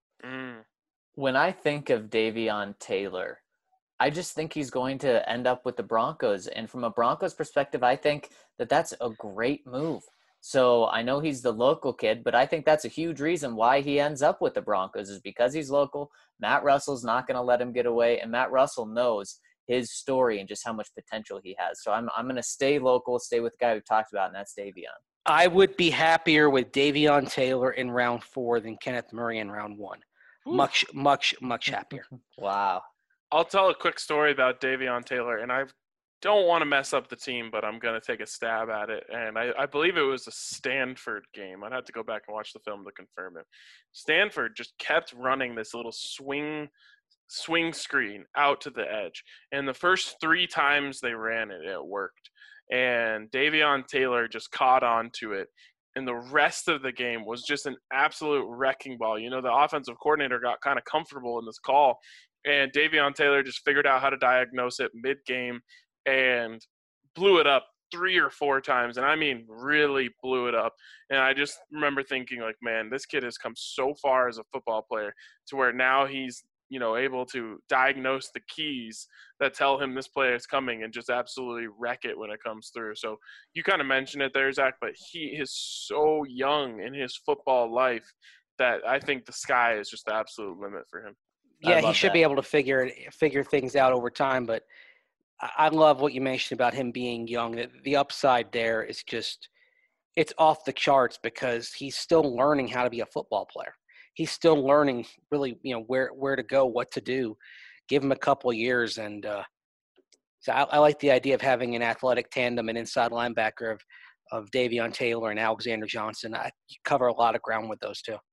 When I think of Davion Taylor, I just think he's going to end up with the Broncos. And from a Broncos perspective, I think that that's a great move. So I know he's the local kid, but I think that's a huge reason why he ends up with the Broncos is because he's local. Matt Russell's not going to let him get away, and Matt Russell knows his story and just how much potential he has. So I'm going to stay local, stay with the guy we talked about, and that's Davion. I would be happier with Davion Taylor in round 4 than Kenneth Murray in round 1. Much, much, much happier. Wow. I'll tell a quick story about Davion Taylor, and I don't want to mess up the team, but I'm going to take a stab at it. And I believe it was a Stanford game. I'd have to go back and watch the film to confirm it. Stanford just kept running this little swing screen out to the edge. And the first 3 times they ran it, it worked. And Davion Taylor just caught on to it. And the rest of the game was just an absolute wrecking ball. You know, the offensive coordinator got kind of comfortable in this call, and Davion Taylor just figured out how to diagnose it mid-game and blew it up 3 or 4 times. And I mean, really blew it up. And I just remember thinking, like, man, this kid has come so far as a football player to where now he's, you know, able to diagnose the keys that tell him this play is coming and just absolutely wreck it when it comes through. So you kind of mentioned it there, Zach, but he is so young in his football life that I think the sky is just the absolute limit for him. Yeah, he should be able to figure things out over time. But I love what you mentioned about him being young. The upside there is just – it's off the charts because he's still learning how to be a football player. He's still learning really, you know, where to go, what to do. Give him a couple of years. And so I like the idea of having an athletic tandem, an inside linebacker of Davion Taylor and Alexander Johnson. You cover a lot of ground with those two.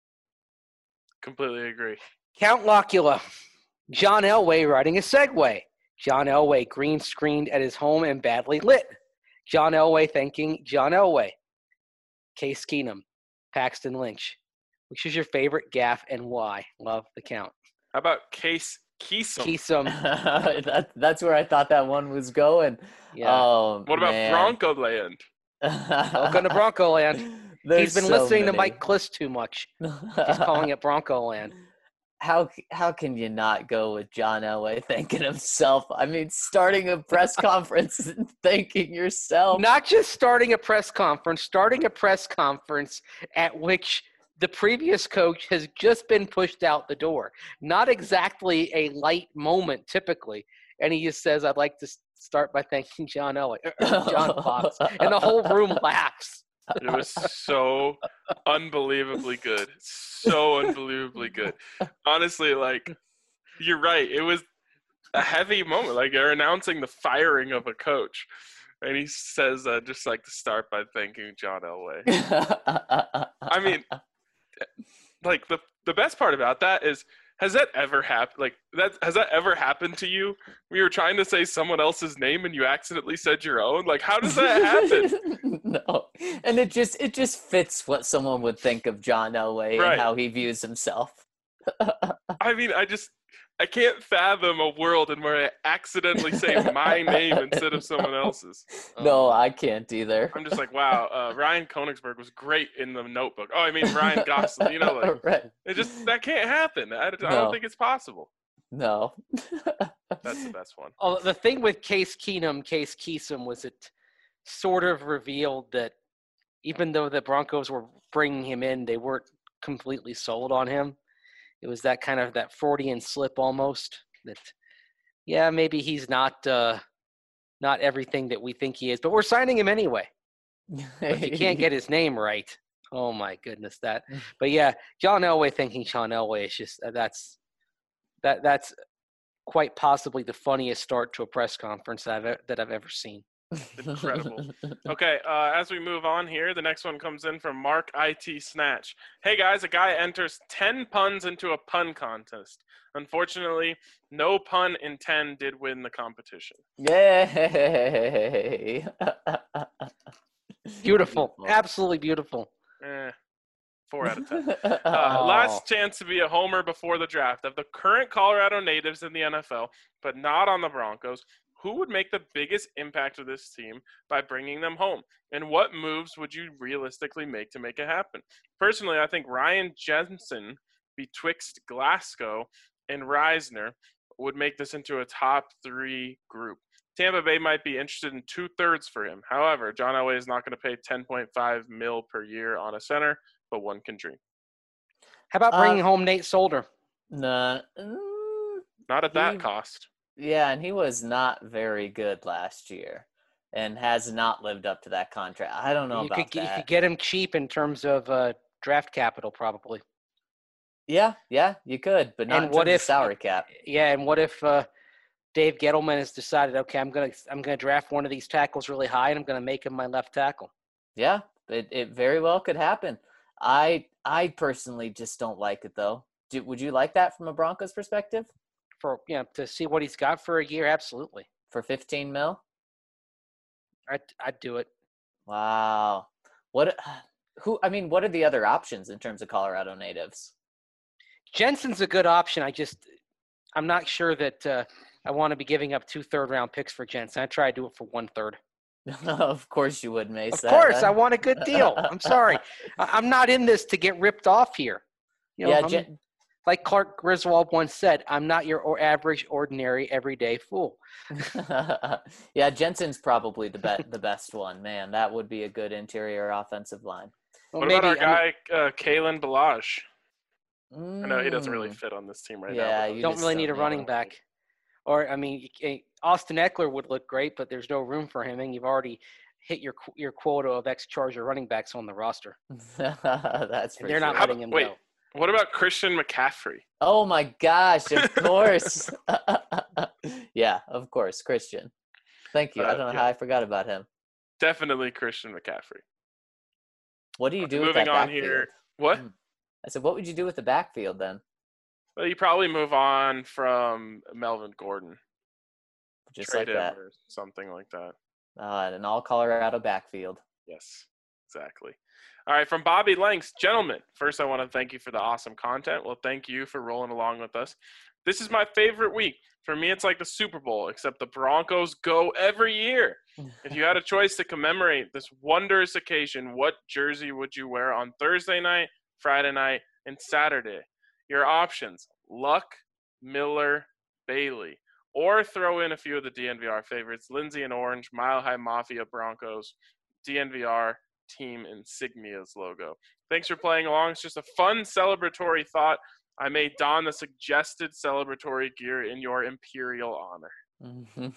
Completely agree. Count Locula. John Elway riding a Segway. John Elway green screened at his home and badly lit. John Elway thanking John Elway. Case Keenum. Paxton Lynch. Which is your favorite gaffe and why? Love the count. How about Case Keesum? That's where I thought that one was going. Yeah. Oh, what about Bronco Land? Welcome to Bronco Land. He's been listening to Mike Kliss too much. He's calling it Bronco Land. How can you not go with John Elway thanking himself? I mean, starting a press conference and thanking yourself. Not just starting a press conference at which the previous coach has just been pushed out the door. Not exactly a light moment typically. And he just says, I'd like to start by thanking John Elway, John Fox. And the whole room laughs. It was so unbelievably good. So unbelievably good. Honestly, like, you're right. It was a heavy moment. Like, they're announcing the firing of a coach. And he says, just like to start by thanking John Elway. I mean, like, the best part about that is, has that ever happened? Like, has that ever happened to you? We were trying to say someone else's name and you accidentally said your own. Like, how does that happen? No, and it just fits what someone would think of John Elway Right. and how he views himself. I mean, I can't fathom a world in where I accidentally say my name instead of someone else's. No, I can't either. I'm just like, wow, Ryan Koenigsberg was great in The Notebook. Oh, I mean, Ryan Gosling, you know, like, right. that can't happen. I don't think it's possible. No. That's the best one. Oh, the thing with Case Keesum was it sort of revealed that even though the Broncos were bringing him in, they weren't completely sold on him. It was that kind of that Freudian slip almost that, yeah, maybe he's not everything that we think he is, but we're signing him anyway. If you can't get his name right, oh my goodness, that. But yeah, John Elway thanking John Elway is just that's quite possibly the funniest start to a press conference that I've ever seen. Incredible. Okay, as we move on here, the next one comes in from Mark IT Snatch. Hey guys, a guy enters 10 puns into a pun contest. Unfortunately, no pun in 10 did win the competition. Yay! Beautiful. Absolutely beautiful. 4 out of 10. Last chance to be a homer before the draft. Of the current Colorado natives in the NFL, but not on the Broncos, who would make the biggest impact of this team by bringing them home? And what moves would you realistically make to make it happen? Personally, I think Ryan Jensen betwixt Glasgow and Reisner would make this into a top 3 group. Tampa Bay might be interested in 2/3 for him. However, John Elway is not going to pay $10.5 million per year on a center, but one can dream. How about bringing home Nate Solder? Nah, Not at that cost. Yeah, and he was not very good last year and has not lived up to that contract. I don't know about that. You could get him cheap in terms of draft capital, probably. Yeah, you could, but not in terms of salary cap. Yeah, and what if Dave Gettleman has decided, okay, I'm gonna draft one of these tackles really high, and I'm gonna make him my left tackle? Yeah, it very well could happen. I personally just don't like it though. Would you like that from a Broncos perspective? To see what he's got for a year, absolutely. For $15 million? I'd do it. Wow. What are the other options in terms of Colorado natives? Jensen's a good option. I'm not sure that I want to be giving up 2 third-round picks for Jensen. I try to do it for 1/3. Of course you would, Mace. Of course, I want a good deal. I'm sorry. I'm not in this to get ripped off here. Like Clark Griswold once said, I'm not your average, ordinary, everyday fool. Yeah, Jensen's probably the best one. Man, that would be a good interior offensive line. Well, what about our guy, Kalen Balazs? I know he doesn't really fit on this team right now. Yeah, you don't really need a running back. Or, Austin Eckler would look great, but there's no room for him, and you've already hit your quota of ex-Charger running backs on the roster. That's They're not letting him go. What about Christian McCaffrey? Oh, my gosh, of course. Yeah, of course, Christian. Thank you. I don't know how I forgot about him. Definitely Christian McCaffrey. What do you do with that backfield? Moving on here. What? I said, what would you do with the backfield then? Well, you probably move on from Melvin Gordon. Just Trade like that. or something like that. An all Colorado backfield. Yes, exactly. All right, from Bobby Lanks. Gentlemen, first I want to thank you for the awesome content. Well, thank you for rolling along with us. This is my favorite week. For me, it's like the Super Bowl, except the Broncos go every year. If you had a choice to commemorate this wondrous occasion, what jersey would you wear on Thursday night, Friday night, and Saturday? Your options: Luck, Miller, Bailey. Or throw in a few of the DNVR favorites: Lindsay and Orange, Mile High Mafia Broncos, DNVR team insignias logo. Thanks for playing along. It's just a fun celebratory thought. I may don the suggested celebratory gear in your imperial honor.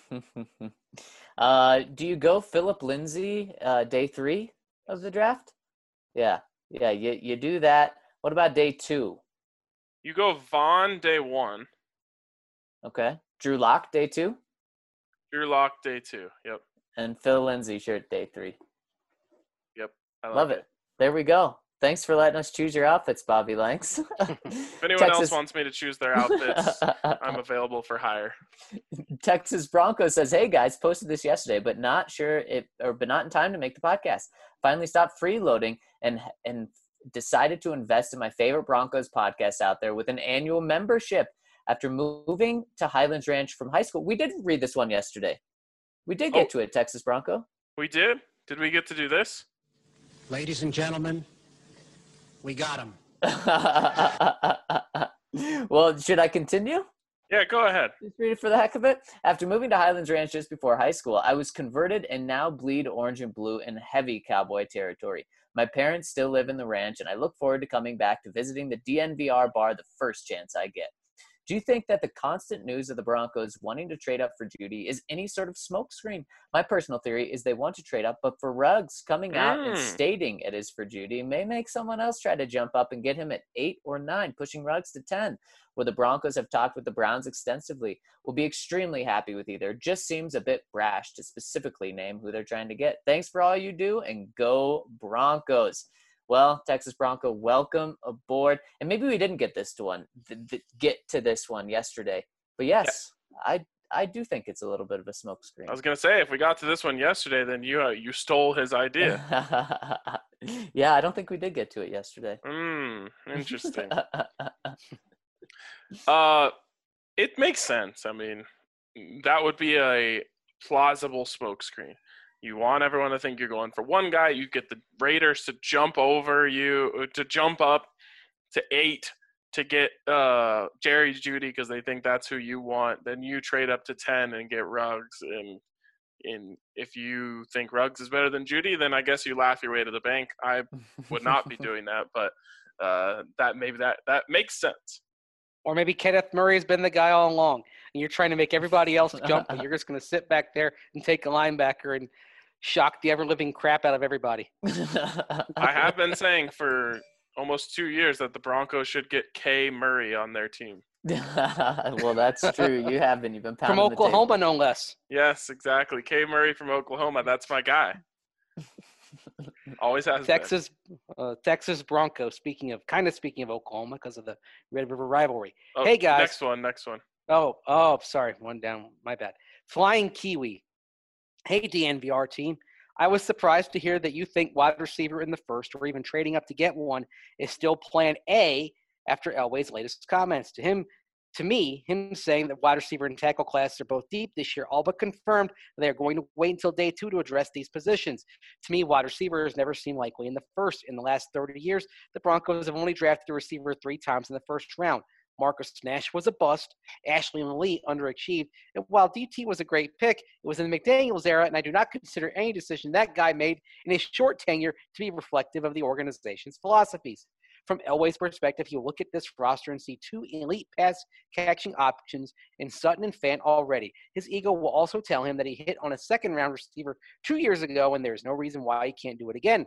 Do you go Philip Lindsay day 3 of the draft? Yeah, you do that. What about day 2? You go Vaughn day 1. Okay. Drew Lock day 2? Drew Lock day 2, yep. And Phil Lindsay shirt day 3. Yep. I Love it. There we go. Thanks for letting us choose your outfits, Bobby Lanks. If anyone else wants me to choose their outfits, I'm available for hire. Texas Broncos says, "Hey guys, posted this yesterday, but not in time to make the podcast. Finally stopped freeloading and decided to invest in my favorite Broncos podcast out there with an annual membership after moving to Highlands Ranch from high school." We did read this one yesterday. We did get to it, Texas Bronco. We did? Did we get to do this? Ladies and gentlemen, we got him. Well, should I continue? Yeah, go ahead. Just read it for the heck of it. After moving to Highlands Ranch just before high school, I was converted and now bleed orange and blue in heavy cowboy territory. My parents still live in the ranch, and I look forward to coming back to visiting the DNVR bar the first chance I get. Do you think that the constant news of the Broncos wanting to trade up for Jeudy is any sort of smokescreen? My personal theory is they want to trade up, but for Ruggs coming out and stating it is for Jeudy may make someone else try to jump up and get him at 8 or 9, pushing Ruggs to 10. Where the Broncos have talked with the Browns extensively, will be extremely happy with either. Just seems a bit brash to specifically name who they're trying to get. Thanks for all you do, and go Broncos. Well, Texas Bronco, welcome aboard. And maybe we didn't get this one yesterday. But yes, yeah. I do think it's a little bit of a smokescreen. I was going to say, if we got to this one yesterday, then you stole his idea. Yeah, I don't think we did get to it yesterday. Interesting. It makes sense. I mean, that would be a plausible smokescreen. You want everyone to think you're going for one guy. You get the Raiders to jump over you, to jump up to 8 to get Jerry Jeudy because they think that's who you want. Then you trade up to 10 and get Ruggs. And if you think Ruggs is better than Jeudy, then I guess you laugh your way to the bank. I would not be doing that, but that makes sense. Or maybe Kenneth Murray has been the guy all along, and you're trying to make everybody else jump, but you're just going to sit back there and take a linebacker and shock the ever-living crap out of everybody. I have been saying for almost 2 years that the Broncos should get K. Murray on their team. Well, that's true. You have been. You've been pounding From Oklahoma, no less. Yes, exactly. K. Murray from Oklahoma. That's my guy. Always has Texas Broncos. Speaking of Oklahoma, because of the Red River rivalry. Oh, hey guys. Next one. Oh, sorry, one down. My bad. Flying Kiwi. Hey DNVR team. I was surprised to hear that you think wide receiver in the first, or even trading up to get one, is still plan A after Elway's latest comments. To me, him saying that wide receiver and tackle classes are both deep this year, all but confirmed that they are going to wait until day 2 to address these positions. To me, wide receiver has never seemed likely in the first. In the last 30 years, the Broncos have only drafted a receiver 3 times in the first round. Marcus Nash was a bust. Ashley Lee underachieved. And while DT was a great pick, it was in the McDaniels era, and I do not consider any decision that guy made in his short tenure to be reflective of the organization's philosophies. From Elway's perspective, he'll look at this roster and see 2 elite pass-catching options in Sutton and Fant already. His ego will also tell him that he hit on a second-round receiver 2 years ago, and there's no reason why he can't do it again.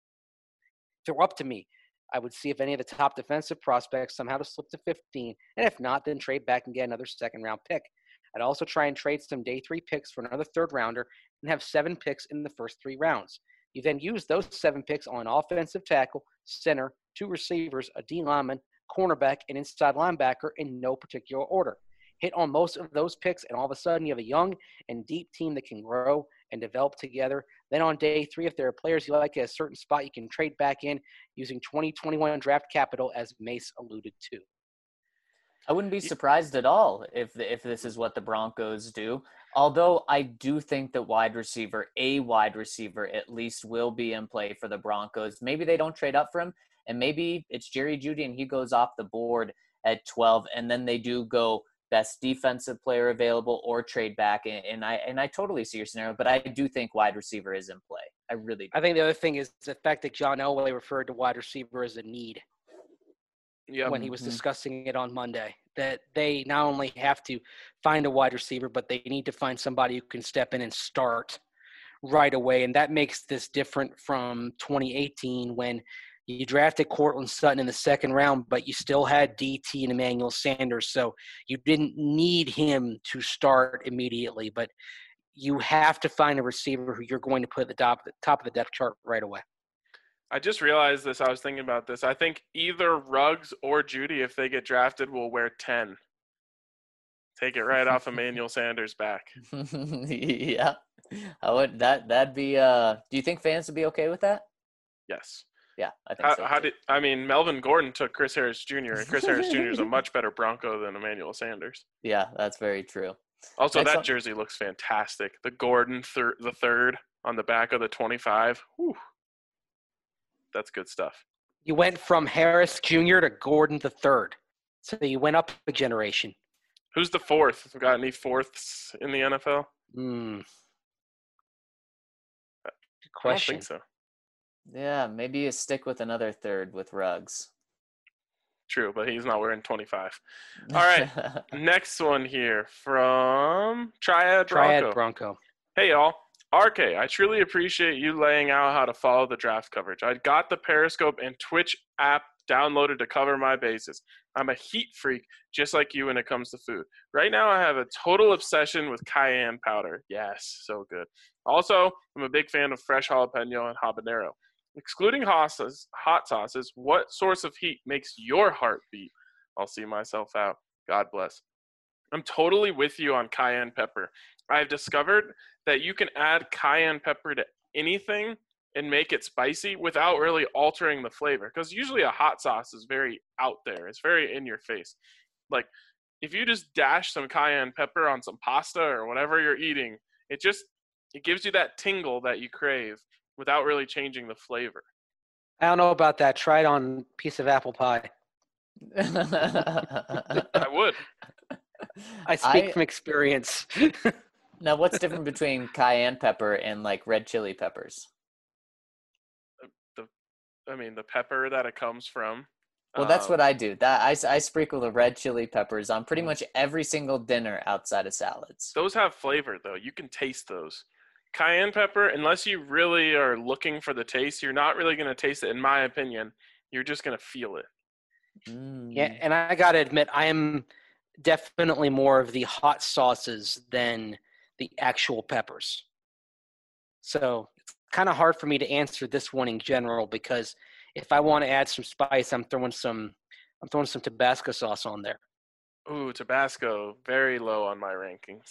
If it were up to me, I would see if any of the top defensive prospects somehow to slip to 15, and if not, then trade back and get another second-round pick. I'd also try and trade some day 3 picks for another third-rounder and have 7 picks in the first 3 rounds. You then use those 7 picks on an offensive tackle, center, 2 receivers, a D lineman, cornerback, and inside linebacker in no particular order. Hit on most of those picks, and all of a sudden you have a young and deep team that can grow and develop together. Then on day 3, if there are players you like at a certain spot, you can trade back in using 2021 draft capital, as Mace alluded to. I wouldn't be surprised at all if this is what the Broncos do. Although I do think that a wide receiver at least will be in play for the Broncos. Maybe they don't trade up for him, and maybe it's Jerry Jeudy and he goes off the board at 12, and then they do go best defensive player available or trade back. And I totally see your scenario, but I do think wide receiver is in play. I really do. I think the other thing is the fact that John Elway referred to wide receiver as a need. When he was discussing it on Monday, that they not only have to find a wide receiver, but they need to find somebody who can step in and start right away. And that makes this different from 2018 when you drafted Courtland Sutton in the second round, but you still had DT and Emmanuel Sanders. So you didn't need him to start immediately, but you have to find a receiver who you're going to put at the top of the depth chart right away. I just realized this. I was thinking about this. I think either Ruggs or Jeudy, if they get drafted, will wear 10. Take it right off Emmanuel Sanders' back. Yeah. That'd be do you think fans would be okay with that? Yes. Yeah, I think so. Melvin Gordon took Chris Harris Jr., and Chris Harris Jr. is a much better Bronco than Emmanuel Sanders. Yeah, that's very true. Also, that jersey looks fantastic. The Gordon the third on the back of the 25. Whew. That's good stuff. You went from Harris Jr. to Gordon the third. So you went up a generation. Who's the fourth? Got any fourths in the NFL? Good question. I don't think so. Yeah, maybe you stick with another third with Ruggs. True, but he's not wearing 25. All right, next one here from Triad Bronco. Hey, y'all. RK, I truly appreciate you laying out how to follow the draft coverage. I got the Periscope and Twitch app downloaded to cover my bases. I'm a heat freak, just like you when it comes to food. Right now, I have a total obsession with cayenne powder. Yes, so good. Also, I'm a big fan of fresh jalapeno and habanero. Excluding hot sauces, what source of heat makes your heart beat? I'll see myself out. God bless. I'm totally with you on cayenne pepper. I've discovered that you can add cayenne pepper to anything and make it spicy without really altering the flavor. Because usually a hot sauce is very out there. It's very in your face. Like, if you just dash some cayenne pepper on some pasta or whatever you're eating, It gives you that tingle that you crave without really changing the flavor. I don't know about that. Try it on a piece of apple pie. I would. I speak from experience. Now, what's different between cayenne pepper and like red chili peppers? The pepper that it comes from. Well, that's what I do. That I sprinkle the red chili peppers on pretty much every single dinner outside of salads. Those have flavor, though. You can taste those. Cayenne pepper, unless you really are looking for the taste, you're not really going to taste it, in my opinion. You're just going to feel it. Yeah, and I got to admit, I am definitely more of the hot sauces than the actual peppers. So it's kind of hard for me to answer this one in general because if I want to add some spice, I'm throwing some Tabasco sauce on there. Ooh, Tabasco, very low on my rankings.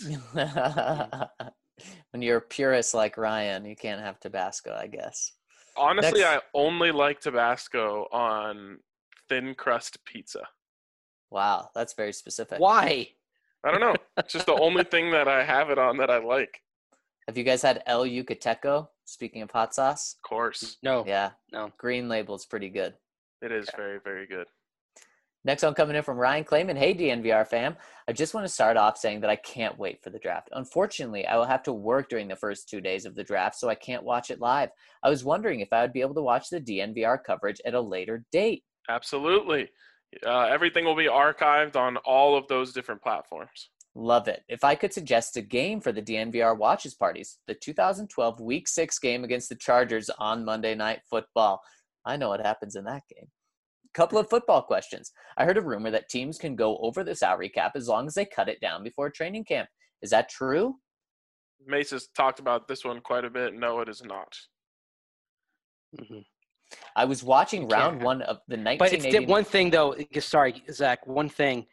When you're a purist like Ryan, you can't have Tabasco, I guess. Honestly, I only like Tabasco on thin crust pizza. Wow, that's very specific. Why? I don't know. It's just the only thing that I have it on that I like. Have you guys had El Yucateco? Speaking of hot sauce? Of course. No. Yeah. No. Green label's pretty good. It is very, very good. Next one coming in from Ryan Clayman. Hey, DNVR fam. I just want to start off saying that I can't wait for the draft. Unfortunately, I will have to work during the first 2 days of the draft, so I can't watch it live. I was wondering if I would be able to watch the DNVR coverage at a later date. Absolutely. Everything will be archived on all of those different platforms. Love it. If I could suggest a game for the DNVR watches parties, the 2012 Week 6 game against the Chargers on Monday Night Football. I know what happens in that game. Couple of football questions. I heard a rumor that teams can go over the salary cap as long as they cut it down before training camp. Is that true? Mace has talked about this one quite a bit. No, it is not. Mm-hmm. I was watching round one of the 1980. But it's one thing, though. Sorry, Zach. One thing.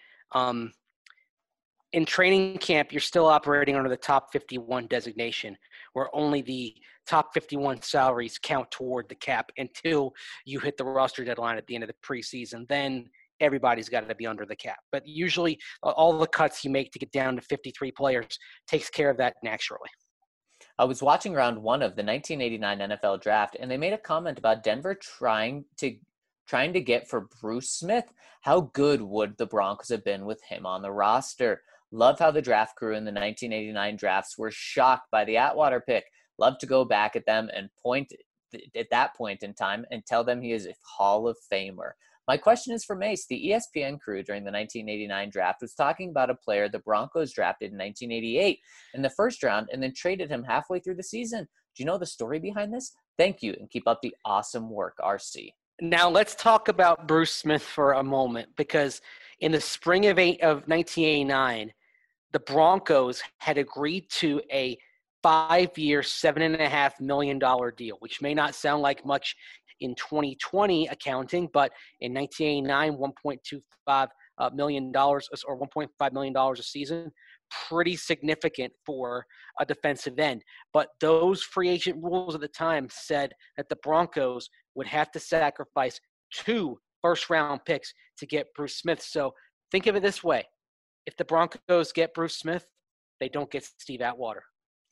In training camp, you're still operating under the top 51 designation, where only the top 51 salaries count toward the cap until you hit the roster deadline at the end of the preseason. Then everybody's got to be under the cap. But usually all the cuts you make to get down to 53 players takes care of that naturally. I was watching round one of the 1989 NFL draft, and they made a comment about Denver trying to get for Bruce Smith. How good would the Broncos have been with him on the roster? Love how the draft crew in the 1989 drafts were shocked by the Atwater pick. Love to go back at them and point at that point in time and tell them he is a Hall of Famer. My question is for Mace. The ESPN crew during the 1989 draft was talking about a player the Broncos drafted in 1988 in the first round and then traded him halfway through the season. Do you know the story behind this? Thank you, and keep up the awesome work, RC. Now let's talk about Bruce Smith for a moment, because in the spring of 1989, the Broncos had agreed to a 5-year, $7.5 million deal, which may not sound like much in 2020 accounting, but in 1989, $1.25 million or $1.5 million a season, pretty significant for a defensive end. But those free agent rules at the time said that the Broncos would have to sacrifice 2 first-round picks to get Bruce Smith. So think of it this way. If the Broncos get Bruce Smith, they don't get Steve Atwater.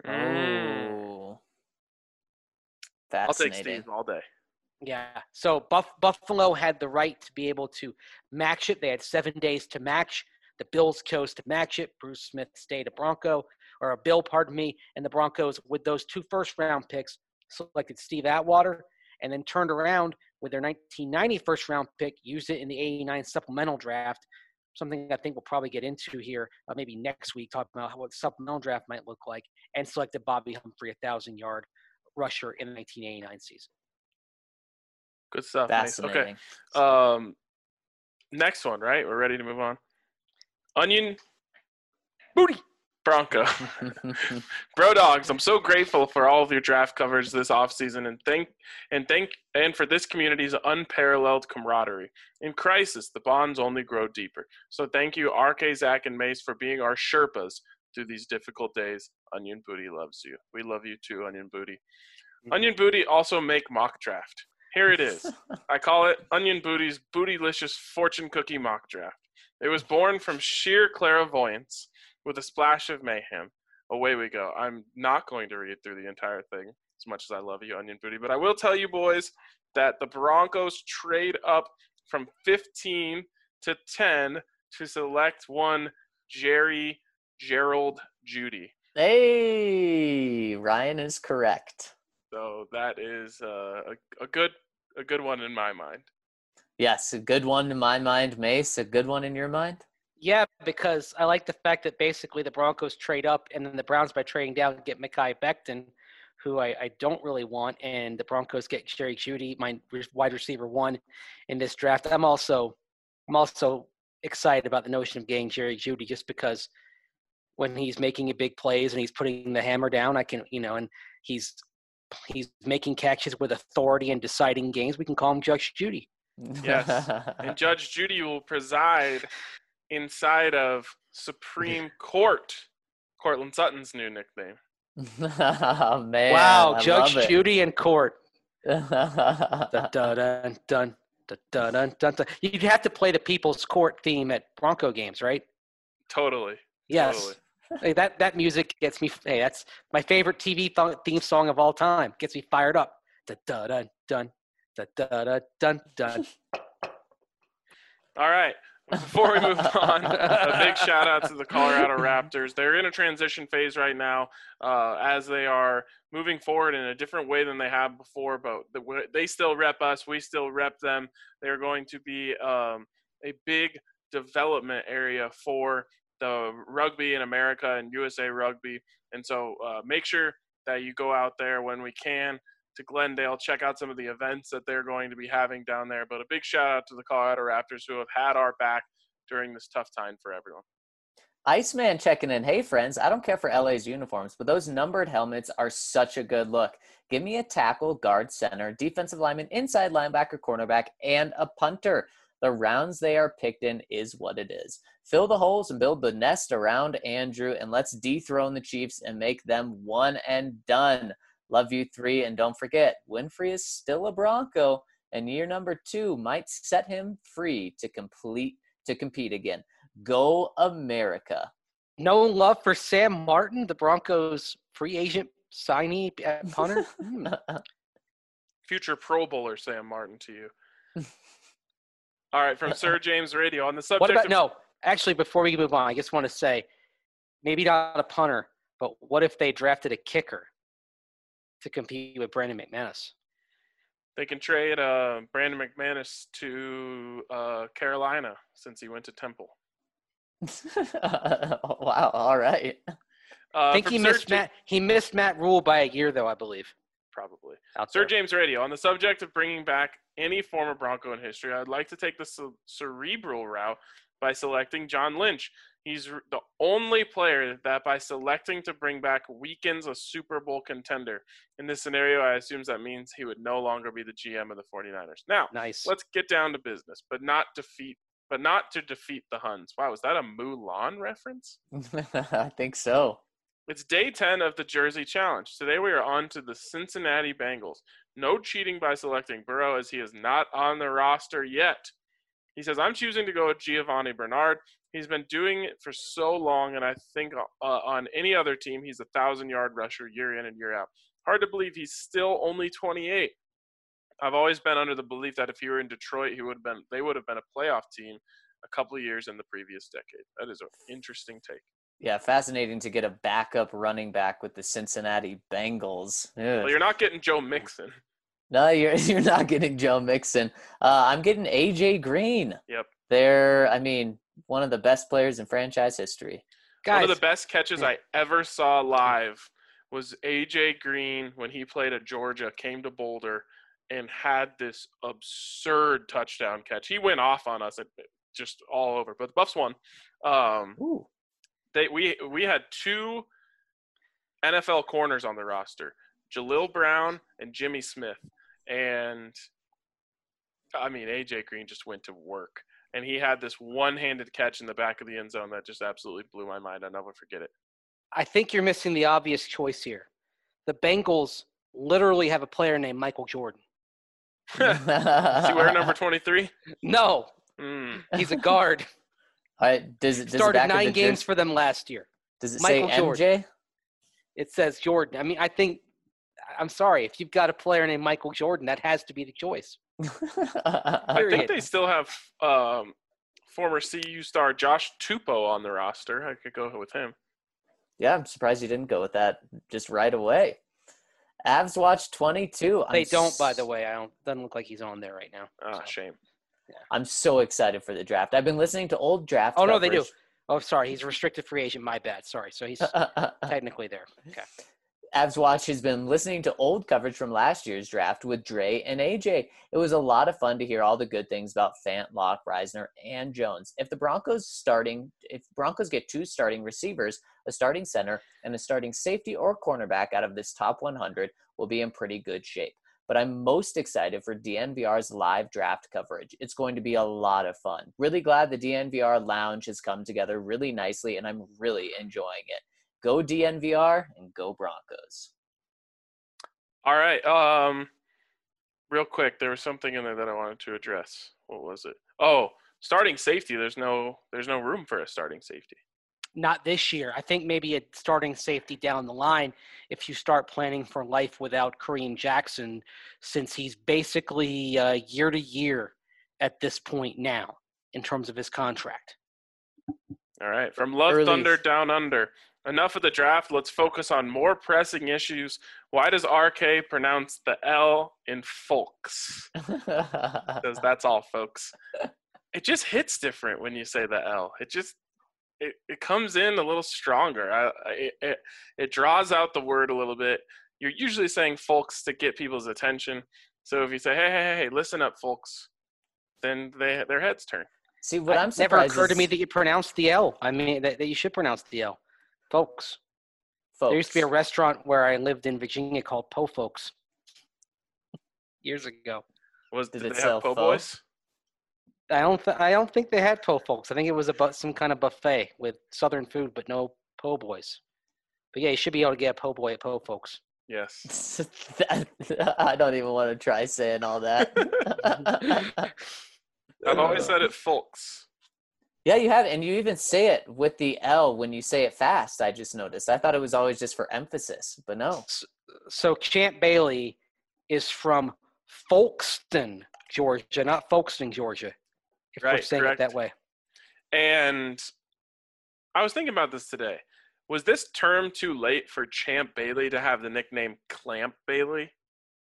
Oh, fascinating. I'll take Steve all day. Yeah. So Buffalo had the right to be able to match it. They had 7 days to match. The Bills chose to match it. Bruce Smith stayed a Bronco, or a Bill, pardon me. And the Broncos, with those 2 first-round picks, selected Steve Atwater, and then turned around with their 1990 first-round pick, used it in the 89 supplemental draft, something I think we'll probably get into here maybe next week, talking about what the supplemental draft might look like, and selected Bobby Humphrey, 1,000-yard rusher in the 1989 season. Good stuff. Fascinating. Nice. Okay. Next one, right? We're ready to move on. Onion Booty Bronco. Bro Dogs, I'm so grateful for all of your draft coverage this offseason and for this community's unparalleled camaraderie. In crisis, the bonds only grow deeper. So thank you, RK, Zach, and Mace, for being our Sherpas through these difficult days. Onion Booty loves you. We love you too, Onion Booty. Onion Booty also make mock draft. Here it is. I call it Onion Booty's Bootylicious Fortune Cookie Mock Draft. It was born from sheer clairvoyance with a splash of mayhem. away we go. I'm not going to read through the entire thing as much as I love you, Onion Booty, but I will tell you, boys, that the Broncos trade up from 15 to 10 to select one Gerald Judy. Hey, Ryan is correct. So that is a good one in my mind. Yes, a good one in my mind. Mace, a good one in your mind? Yeah, because I like the fact that basically the Broncos trade up, and then the Browns, by trading down, get Mekhi Becton, who I don't really want, and the Broncos get Jerry Jeudy, my wide receiver 1 in this draft. I'm also excited about the notion of getting Jerry Jeudy, just because when he's making big plays and he's putting the hammer down, I can, and he's making catches with authority and deciding games. We can call him Judge Judy. Yes, and Judge Judy will preside inside of Supreme Court, Cortland Sutton's new nickname. Oh, man. Wow, I Judge love it. Judy in court. Dun, dun, dun, dun, dun, dun, dun. You'd have to play the People's Court theme at Bronco games, right? Totally. Yes. Totally. Hey, that music gets me. Hey, that's my favorite TV theme song of all time. Gets me fired up. Dun, dun, dun, dun, dun, dun, dun. All right. Before we move on, a big shout out to the Colorado Raptors. They're in a transition phase right now as they are moving forward in a different way than they have before, but they still rep us. We still rep them. They're going to be a big development area for the rugby in America and USA Rugby. And so make sure that you go out there when we can to Glendale, check out some of the events that they're going to be having down there. But a big shout out to the Colorado Raptors, who have had our back during this tough time for everyone. Iceman checking in. Hey, friends, I don't care for LA's uniforms, but those numbered helmets are such a good look. Give me a tackle, guard, center, defensive lineman, inside linebacker, cornerback, and a punter. The rounds they are picked in is what it is. Fill the holes and build the nest around Andrew, and let's dethrone the Chiefs and make them one and done. Love you 3, and don't forget, Winfrey is still a Bronco, and year number 2 might set him free to compete again. Go America. No love for Sam Martin, the Broncos free agent signee at punter? Future Pro Bowler Sam Martin to you. All right, from Sir James Radio on the subject Actually, before we move on, I just want to say, maybe not a punter, but what if they drafted a kicker to compete with Brandon McManus? They can trade Brandon McManus to Carolina since he went to Temple. Wow, all right. I think he missed Matt Rule by a year, though, I believe. Probably. Sir James Radio, on the subject of bringing back any former Bronco in history, I'd like to take the cerebral route by selecting John Lynch. He's the only player that, by selecting to bring back, weakens a Super Bowl contender. In this scenario, I assume that means he would no longer be the GM of the 49ers. Now, nice. Let's get down to business, but not to defeat the Huns. Wow, is that a Mulan reference? I think so. It's day 10 of the Jersey Challenge. Today we are on to the Cincinnati Bengals. No cheating by selecting Burrow, as he is not on the roster yet. He says, I'm choosing to go with Giovanni Bernard. He's been doing it for so long, and I think on any other team, he's a 1,000-yard rusher year in and year out. Hard to believe he's still only 28. I've always been under the belief that if he were in Detroit, they would have been a playoff team a couple of years in the previous decade. That is an interesting take. Yeah, fascinating to get a backup running back with the Cincinnati Bengals. Well, you're not getting Joe Mixon. No, you're not getting Joe Mixon. I'm getting A.J. Green. Yep. They're, one of the best players in franchise history. Guys, one of the best catches I ever saw live was A.J. Green when he played at Georgia, came to Boulder, and had this absurd touchdown catch. He went off on us, just all over. But the Buffs won. We had 2 NFL corners on the roster, Jalil Brown and Jimmy Smith. And, A.J. Green just went to work. And he had this one-handed catch in the back of the end zone that just absolutely blew my mind. I'll never forget it. I think you're missing the obvious choice here. The Bengals literally have a player named Michael Jordan. Does he wear number 23? No. He's a guard. Does started 9 games for them last year. Does it Michael say Jordan. MJ? It says Jordan. I mean, I'm sorry. If you've got a player named Michael Jordan, that has to be the choice. I think Period. they still have former CU star Josh Tupou on the roster. I could go with him. Yeah, I'm surprised you didn't go with that just right away. Avs Watch 22. They don't, by the way. Doesn't look like he's on there right now. Ah, shame. I'm so excited for the draft. I've been listening to old draft Oh, no, they do. coverage. Oh, sorry. He's a restricted free agent. My bad. Sorry. So he's technically there. Okay. Avs Watch has been listening to old coverage from last year's draft with Dre and AJ. It was a lot of fun to hear all the good things about Fant, Locke, Reisner, and Jones. If Broncos get 2 starting receivers, a starting center, and a starting safety or cornerback out of this top 100, we'll be in pretty good shape. But I'm most excited for DNVR's live draft coverage. It's going to be a lot of fun. Really glad the DNVR lounge has come together really nicely, and I'm really enjoying it. Go DNVR and go Broncos. All right. Real quick, there was something in there that I wanted to address. What was it? Oh, starting safety. There's no room for a starting safety. Not this year. I think maybe a starting safety down the line if you start planning for life without Kareem Jackson, since he's basically year to year at this point now in terms of his contract. All right. From Love Thunder Down Under. Enough of the draft. Let's focus on more pressing issues. Why does RK pronounce the L in folks? Because that's all, folks. It just hits different when you say the L. It comes in a little stronger. It draws out the word a little bit. You're usually saying folks to get people's attention. So if you say, hey, listen up, folks, then their heads turn. See, what I'm surprised never occurred to me that you pronounce the L. I mean, that you should pronounce the L. Folks. There used to be a restaurant where I lived in Virginia called Po Folks years ago. Did they have Po Boys? I don't think they had Po Folks. I think it was about some kind of buffet with Southern food, but no Po Boys. But yeah, you should be able to get a Po Boy at Po Folks. Yes. I don't even want to try saying all that. I've always said it folks. Yeah, you have, and you even say it with the L when you say it fast. I just noticed. I thought it was always just for emphasis, but no. So Champ Bailey is from Folkston, Georgia, not Folkestone, Georgia. If we're saying it that way. And I was thinking about this today. Was this term too late for Champ Bailey to have the nickname Clamp Bailey?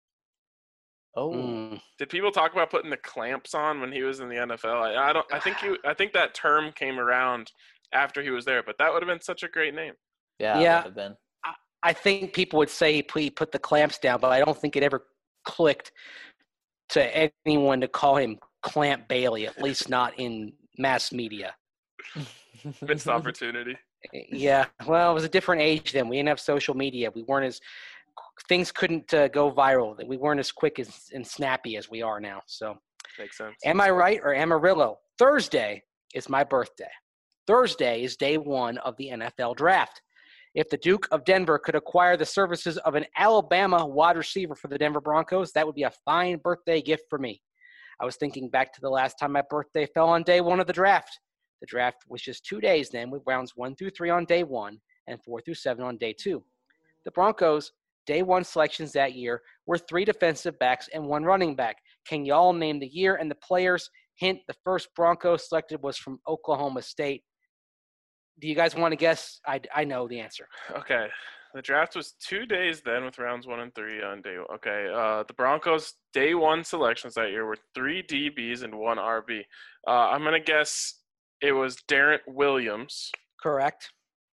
Oh. Did people talk about putting the clamps on when he was in the NFL? I think that term came around after he was there, but that would have been such a great name. Yeah. It would have been. I think people would say he put the clamps down, but I don't think it ever clicked to anyone to call him Clamp Bailey, at least not in mass media. Missed opportunity. Yeah. Well, it was a different age then. We didn't have social media. We weren't as things couldn't go viral. We weren't as quick and snappy as we are now. So makes sense. Am I right or Amarillo? Thursday is my birthday. Thursday is day 1 of the NFL draft. If the Duke of Denver could acquire the services of an Alabama wide receiver for the Denver Broncos, that would be a fine birthday gift for me. I was thinking back to the last time my birthday fell on day 1 of the draft. The draft was just 2 days then, with rounds 1 through 3 on day 1 and 4 through 7 on day 2. The Broncos' day 1 selections that year were 3 defensive backs and 1 running back. Can y'all name the year and the players? Hint, the first Broncos selected was from Oklahoma State. Do you guys want to guess? I know the answer. Okay. The draft was 2 days then with rounds 1 and 3 on day 1. Okay. The Broncos' day 1 selections that year were 3 DBs and 1 RB. I'm going to guess it was Darren Williams. Correct.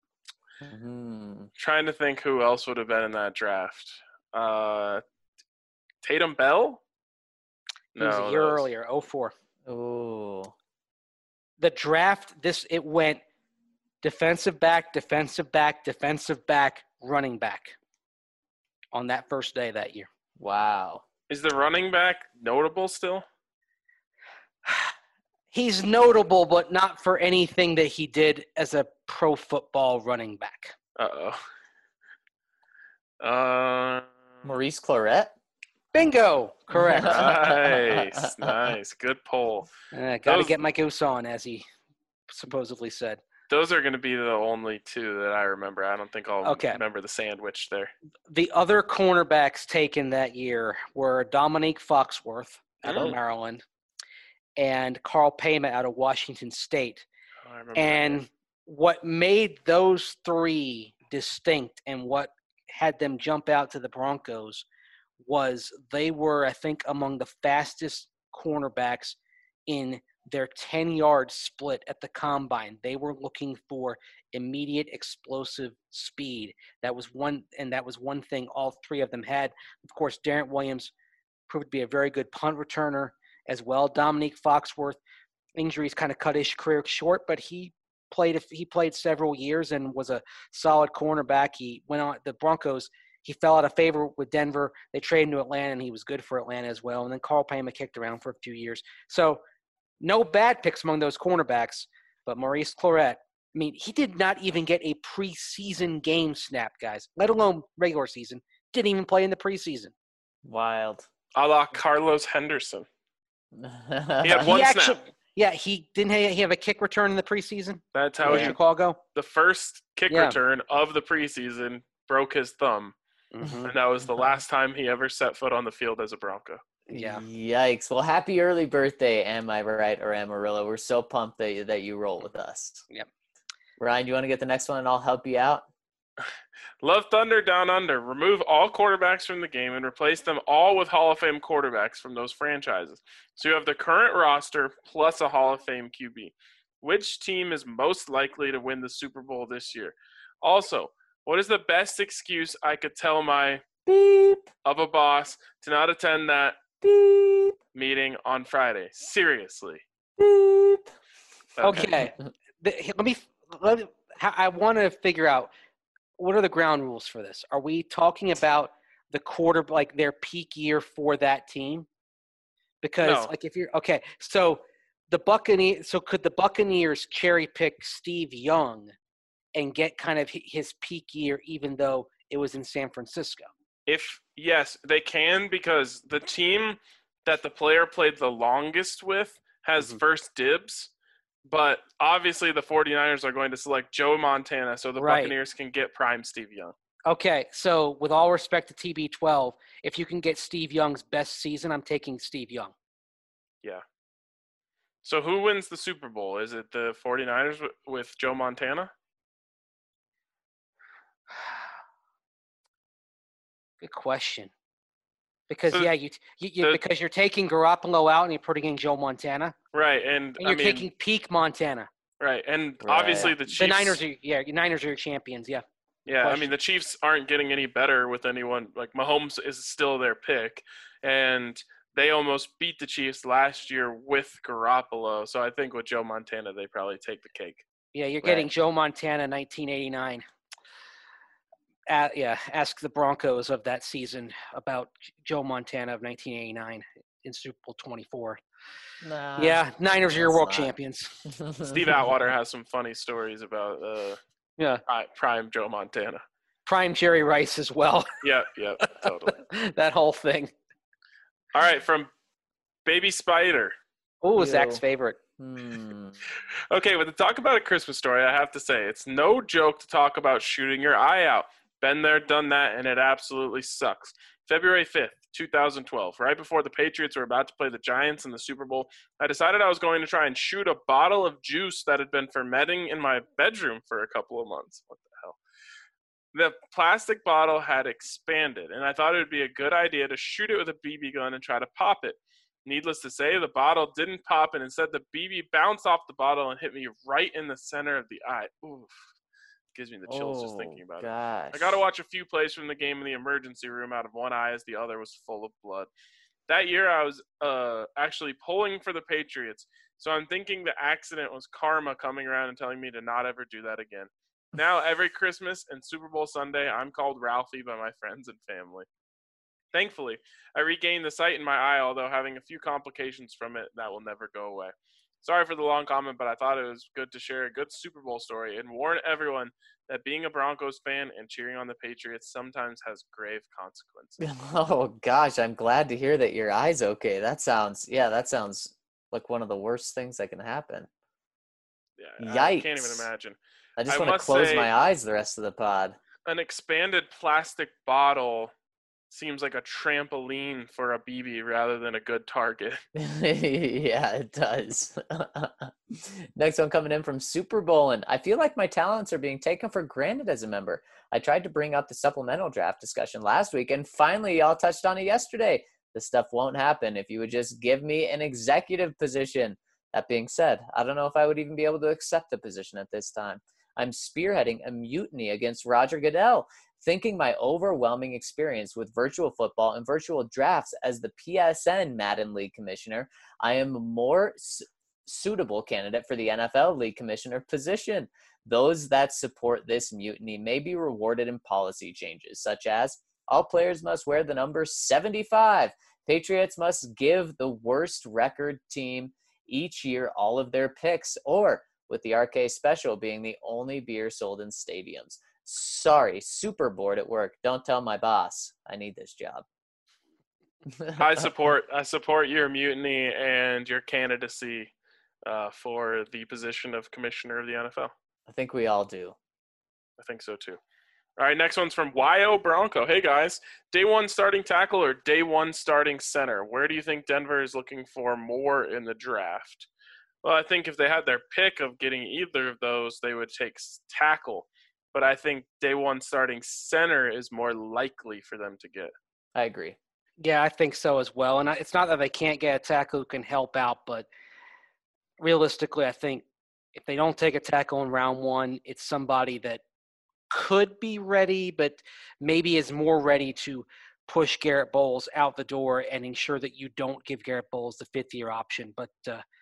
Trying to think who else would have been in that draft. Tatum Bell? No, it was a year earlier, 04. Oh. The draft, it went defensive back, running back on that first day that year. Wow. Is the running back notable still? He's notable, but not for anything that he did as a pro football running back. Maurice Clarett? Bingo! Correct. Nice. Good poll. Got to get my goose on, as he supposedly said. Those are going to be the only two that I remember. I don't think I'll Okay. remember the sandwich there. The other cornerbacks taken that year were Dominique Foxworth out of Mm. Maryland and Carl Payma out of Washington State. Oh, I remember that name. And what made those three distinct and what had them jump out to the Broncos was they were, I think, among the fastest cornerbacks in their 10-yard split at the combine. They were looking for immediate explosive speed. That was one thing all three of them had. Of course, Darren Williams proved to be a very good punt returner as well. Dominique Foxworth, injuries kind of cut his career short, but he played several years and was a solid cornerback. He went on the Broncos. He fell out of favor with Denver. They traded him to Atlanta, and he was good for Atlanta as well. And then Carl Payma kicked around for a few years. So no bad picks among those cornerbacks, but Maurice Clarett, I mean, he did not even get a preseason game snap, guys, let alone regular season. Didn't even play in the preseason. Wild. A la Carlos Henderson. He had one He snap. actually, yeah, he have a kick return in the preseason That's how with he, Chicago. the first kick Yeah. return of the preseason broke his thumb. Mhm. And that was the last time he ever set foot on the field as a Bronco. Yeah. Yikes. Well, happy early birthday, am I right, or Amarillo? We're so pumped that you roll with us. Yep. Ryan, you want to get the next one and I'll help you out? Love Thunder Down Under. Remove all quarterbacks from the game and replace them all with Hall of Fame quarterbacks from those franchises. So you have the current roster plus a Hall of Fame QB. Which team is most likely to win the Super Bowl this year? Also, what is the best excuse I could tell my Beep, of a boss to not attend that beep, meeting on Friday? Seriously. beep. Okay. I want to figure out what are the ground rules for this. Are we talking about the quarter, like their peak year for that team? Because No. like if you're okay, so could the Buccaneers cherry pick Steve Young and get kind of his peak year, even though it was in San Francisco? Yes, they can, because the team that the player played the longest with has Mhm. first dibs. But obviously the 49ers are going to select Joe Montana so the Right. Buccaneers can get prime Steve Young. Okay, so with all respect to TB12, if you can get Steve Young's best season, I'm taking Steve Young. Yeah. So who wins the Super Bowl? Is it the 49ers with Joe Montana? Good question. Because So because you're taking Garoppolo out and you're putting in Joe Montana, Right, and and you're taking peak Montana. right, and Right. obviously the Chiefs. The Niners are your champions. Yeah. Yeah, I question. mean the Chiefs aren't getting any better with anyone. Like Mahomes is still their pick, and they almost beat the Chiefs last year with Garoppolo. So I think with Joe Montana, they probably take the cake. Yeah, you're getting Right. Joe Montana, 1989. Ask the Broncos of that season about Joe Montana of 1989 in Super Bowl 24. Nah, Yeah, Niners are your that's world not. champions. Steve Atwater has some funny stories about Yeah, prime Joe Montana. prime Jerry Rice as well. Yeah, totally. That whole thing. All right, from Baby Spider. Oh, Zach's Yo. favorite. Okay, but to talk about A Christmas Story, I have to say, it's no joke to talk about shooting your eye out. Been there, done that, and it absolutely sucks. February 5th, 2012, right before the Patriots were about to play the Giants in the Super Bowl, I decided I was going to try and shoot a bottle of juice that had been fermenting in my bedroom for a couple of months. What the hell? The plastic bottle had expanded, and I thought it would be a good idea to shoot it with a BB gun and try to pop it. Needless to say, the bottle didn't pop, and instead the BB bounced off the bottle and hit me right in the center of the eye. Oof. Gives me the chills just thinking about it. Gosh. I got to watch a few plays from the game in the emergency room out of one eye as the other was full of blood. That year I was actually pulling for the Patriots, so I'm thinking the accident was karma coming around and telling me to not ever do that again. Now every Christmas and Super Bowl Sunday, I'm called Ralphie by my friends and family. Thankfully, I regained the sight in my eye, although having a few complications from it that will never go away. Sorry for the long comment, but I thought it was good to share a good Super Bowl story and warn everyone that being a Broncos fan and cheering on the Patriots sometimes has grave consequences. Oh gosh, I'm glad to hear that your eye's okay. That sounds like one of the worst things that can happen. Yeah, I can't even Yikes. imagine. I just I want to must close say- my eyes the rest of the pod. An expanded plastic bottle seems like a trampoline for a BB rather than a good target. Yeah, it does. Next one coming in from Super Bowlin. I feel like my talents are being taken for granted as a member. I tried to bring up the supplemental draft discussion last week, and finally y'all touched on it yesterday. This stuff won't happen if you would just give me an executive position. That being said, I don't know if I would even be able to accept the position at this time. I'm spearheading a mutiny against Roger Goodell, thinking my overwhelming experience with virtual football and virtual drafts as the PSN Madden League Commissioner, I am a more suitable candidate for the NFL League Commissioner position. Those that support this mutiny may be rewarded in policy changes, such as all players must wear the number 75. Patriots must give the worst record team each year all of their picks, or with the RK Special being the only beer sold in stadiums. Sorry, super bored at work. Don't tell my boss. I need this job. I support your mutiny and your candidacy for the position of commissioner of the NFL. I think we all do. I think so too. All right, next one's from YO Bronco. Hey guys, day one starting tackle or day one starting center? Where do you think Denver is looking for more in the draft? Well, I think if they had their pick of getting either of those, they would take tackle. But I think day one starting center is more likely for them to get. I agree. Yeah, I think so as well. And it's not that they can't get a tackle who can help out, but realistically, I think if they don't take a tackle in round one, it's somebody that could be ready, but maybe is more ready to push Garrett Bowles out the door and ensure that you don't give Garrett Bowles the fifth-year option. But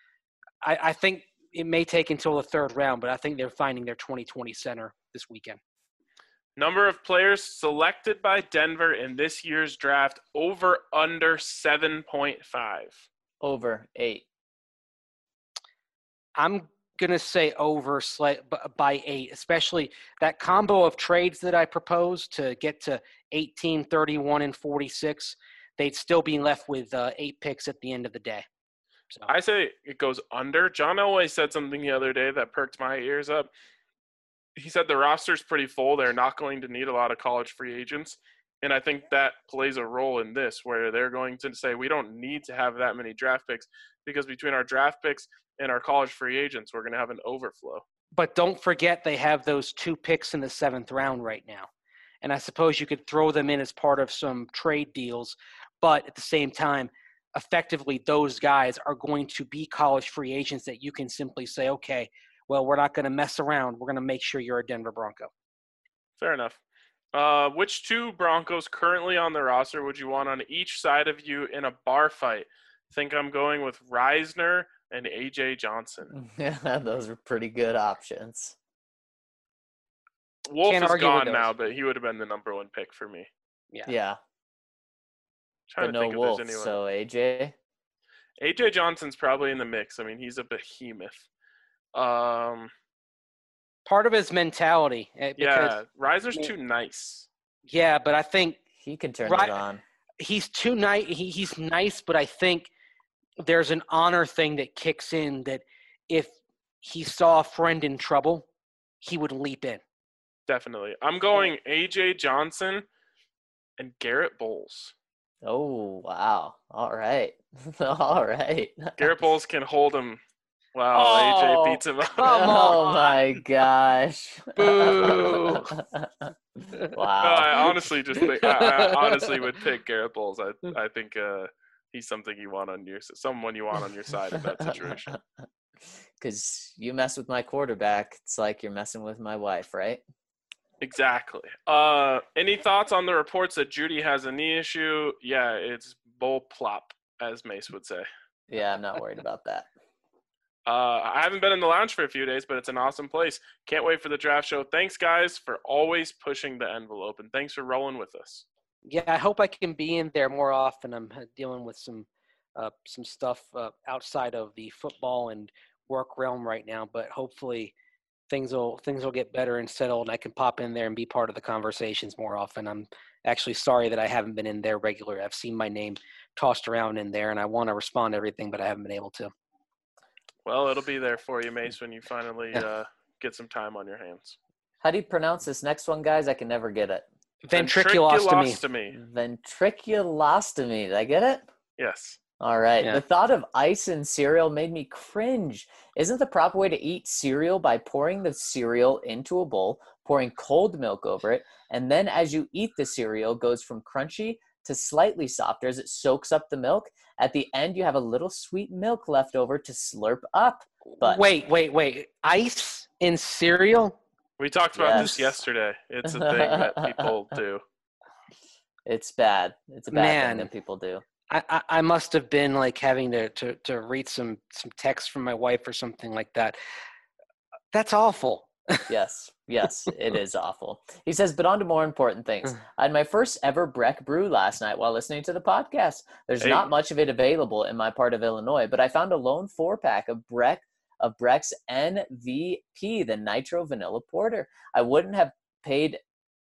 I think it may take until the third round, but I think they're finding their 2020 center this weekend. Number of players selected by Denver in this year's draft, over under 7.5. Over 8. I'm going to say over by 8, especially that combo of trades that I proposed to get to 18, 31, and 46. They'd still be left with 8 picks at the end of the day. So I say it goes under. John Elway said something the other day that perked my ears up. He said the roster's pretty full. They're not going to need a lot of college free agents. And I think that plays a role in this, where they're going to say we don't need to have that many draft picks because between our draft picks and our college free agents, we're going to have an overflow. But don't forget they have those 2 picks in the 7th round right now. And I suppose you could throw them in as part of some trade deals. But at the same time, effectively those guys are going to be college free agents that you can simply say, okay, well, we're not going to mess around. We're going to make sure you're a Denver Bronco. Fair enough. Which 2 Broncos currently on the roster would you want on each side of you in a bar fight? I think I'm going with Reisner and A.J. Johnson. Yeah, those are pretty good options. Wolf Can't is argue with gone those. now, but he would have been the number 1 pick for me. Yeah, Trying but to no think if Wolf. there's anyone. So AJ. A.J. Johnson's probably in the mix. I mean, he's a behemoth. Part of his mentality. Because, Yeah, Reisner's too nice. Yeah, but I think He can turn Right. it on. he's too nice. He's nice, but I think there's an honor thing that kicks in that if he saw a friend in trouble, he would leap in. Definitely. I'm going A.J. Johnson and Garrett Bowles. Oh, wow. All right. All right. Garrett Bowles can hold him. Wow, Oh, A.J. beats him up. come Oh on. my gosh. Boo. No, Wow. I honestly just think I honestly would pick Garrett Bowles. I think he's something you want on someone you want on your side in that situation. Because you mess with my quarterback, it's like you're messing with my wife, right? Exactly. Any thoughts on the reports that Judy has a knee issue? Yeah, it's bull plop, as Mace would say. Yeah, I'm not worried about that. I haven't been in the lounge for a few days, but it's an awesome place. Can't wait for the draft show. Thanks, guys, for always pushing the envelope, and thanks for rolling with us. Yeah, I hope I can be in there more often. I'm dealing with some stuff outside of the football and work realm right now, but hopefully things will get better and settled, and I can pop in there and be part of the conversations more often. I'm actually sorry that I haven't been in there regularly. I've seen my name tossed around in there, and I want to respond to everything, but I haven't been able to. Well, it'll be there for you, Mace, when you finally Yeah. get some time on your hands. How do you pronounce this next one, guys? I can never get it. Ventriculostomy. Ventriculostomy. Did I get it? Yes. All right. Yeah. The thought of ice in cereal made me cringe. Isn't the proper way to eat cereal by pouring the cereal into a bowl, pouring cold milk over it, and then as you eat the cereal, goes from crunchy to slightly softer as it soaks up the milk? At the end, you have a little sweet milk left over to slurp up. But Wait. Ice in cereal? We talked about this Yes. yesterday. It's a thing that people do. it's bad. It's a bad thing Man. that people do. I must have been like having to read some text from my wife or something like that. That's awful. Yes, it is awful. He says, but on to more important things. I had my first ever Breck brew last night while listening to the podcast. There's Hey. not much of it available in my part of Illinois, but I found a lone 4-pack of Breck's NVP, the Nitro Vanilla Porter. I wouldn't have paid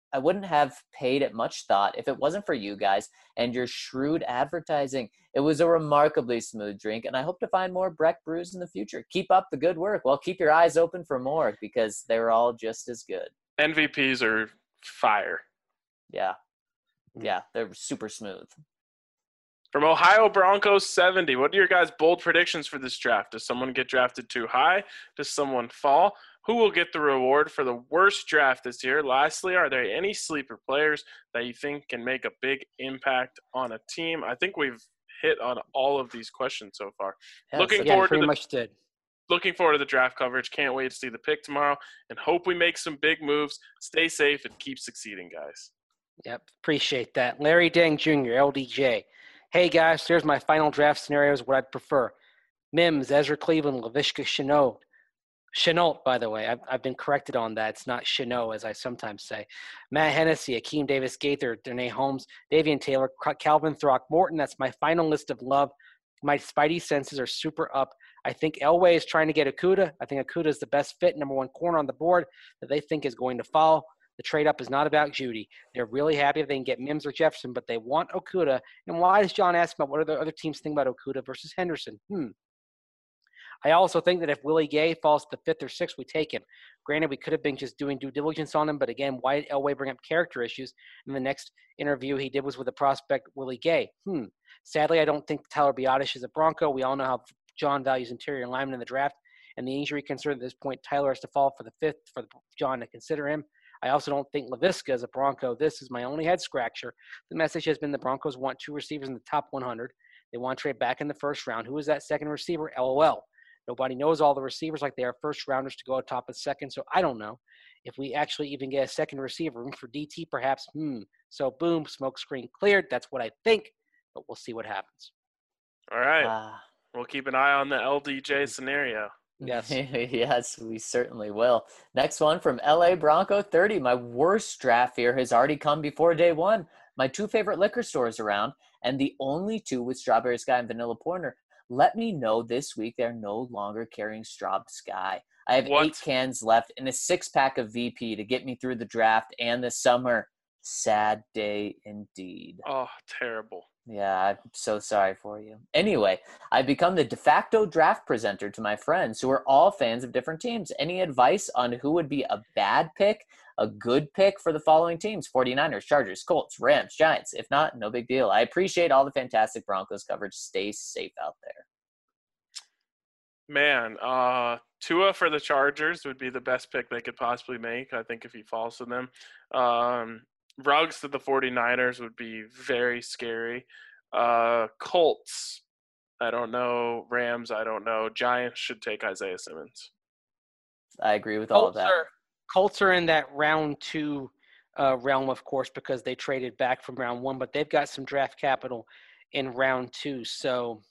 it much thought if it wasn't for you guys and your shrewd advertising. It was a remarkably smooth drink, and I hope to find more Breck brews in the future. Keep up the good work. Well, keep your eyes open for more because they're all just as good. NVPs are fire. Yeah, they're super smooth. From Ohio Broncos 70, what are your guys' bold predictions for this draft? Does someone get drafted too high? Does someone fall? Who will get the reward for the worst draft this year? Lastly, are there any sleeper players that you think can make a big impact on a team? I think we've hit on all of these questions so far. Yeah, Looking so- Yeah, forward to pretty the much did. looking forward to the draft coverage. Can't wait to see the pick tomorrow and hope we make some big moves. Stay safe and keep succeeding, guys. Yep, appreciate that. Larry Dang Jr., LDJ. Hey, guys, here's my final draft scenarios, what I'd prefer. Mims, Ezra Cleveland, Laviska Shenault. Shenault, by the way. I've been corrected on that. It's not Shenault, as I sometimes say. Matt Hennessy, Akeem Davis-Gaither, Danae Holmes, Davian Taylor, Calvin Throckmorton. That's my final list of love. My spidey senses are super up. I think Elway is trying to get Okudah. I think Okudah is the best fit, number one corner on the board that they think is going to fall. The trade-up is not about Judy. They're really happy if they can get Mims or Jefferson, but they want Okudah. And why does John ask about what are the other teams think about Okudah versus Henderson? I also think that if Willie Gay falls to the 5th or 6th, we take him. Granted, we could have been just doing due diligence on him, but again, why did Elway bring up character issues? And the next interview he did was with the prospect Willie Gay. Sadly, I don't think Tyler Biotish is a Bronco. We all know how John values interior linemen in the draft, and the injury concern at this point, Tyler has to fall for the 5th for John to consider him. I also don't think Laviska is a Bronco. This is my only head scratcher. The message has been the Broncos want 2 receivers in the top 100. They want to trade back in the first round. Who is that second receiver? LOL. Nobody knows all the receivers like they are first rounders to go atop of second, so I don't know. If we actually even get a second receiver, room for DT perhaps, So boom, smoke screen cleared. That's what I think, but we'll see what happens. All right. We'll keep an eye on the LDJ scenario. Yes. Yes, we certainly will. Next one from LA Bronco 30. My worst draft fear has already come before day one. My 2 favorite liquor stores around, and the only 2 with Strawberry Sky and Vanilla Porter. Let me know this week they're no longer carrying Straub Sky. I have What? 8 cans left and a 6-pack of VP to get me through the draft and the summer. Sad day indeed. Oh, terrible. Yeah, I'm so sorry for you. Anyway, I've become the de facto draft presenter to my friends who are all fans of different teams. Any advice on who would be a bad pick, a good pick for the following teams? 49ers, Chargers, Colts, Rams, Giants. If not, no big deal. I appreciate all the fantastic Broncos coverage. Stay safe out there. Man, Tua for the Chargers would be the best pick they could possibly make, I think, if he falls to them. Ruggs to the 49ers would be very scary. Colts, I don't know. Rams, I don't know. Giants should take Isaiah Simmons. I agree with all of that. Colts are in that round 2 realm, of course, because they traded back from round 1, but they've got some draft capital in round 2. So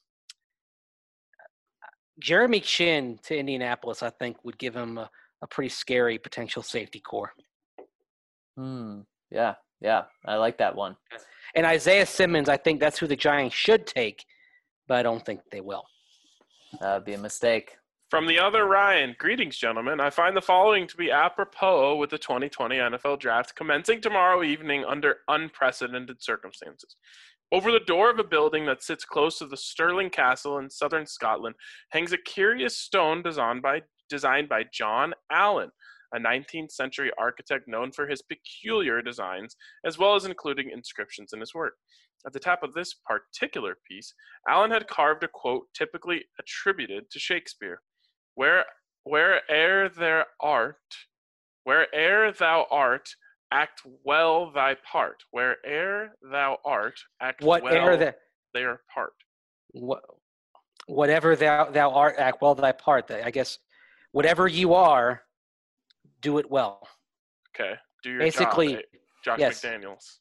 Jeremy Chin to Indianapolis, I think, would give him a pretty scary potential safety core. Yeah, I like that one. And Isaiah Simmons, I think that's who the Giants should take, but I don't think they will. That would be a mistake. From the other Ryan, greetings, gentlemen. I find the following to be apropos with the 2020 NFL Draft commencing tomorrow evening under unprecedented circumstances. Over the door of a building that sits close to the Stirling Castle in southern Scotland hangs a curious stone designed by John Allen, a 19th century architect known for his peculiar designs, as well as including inscriptions in his work. At the top of this particular piece, Allen had carved a quote typically attributed to Shakespeare: Where'er thou art, act well thy part. Where'er thou art, act Whatever well their part. whatever thou art, act well thy part. I guess whatever you are, do it well. Okay, do your Basically, job, Josh yes. McDaniels.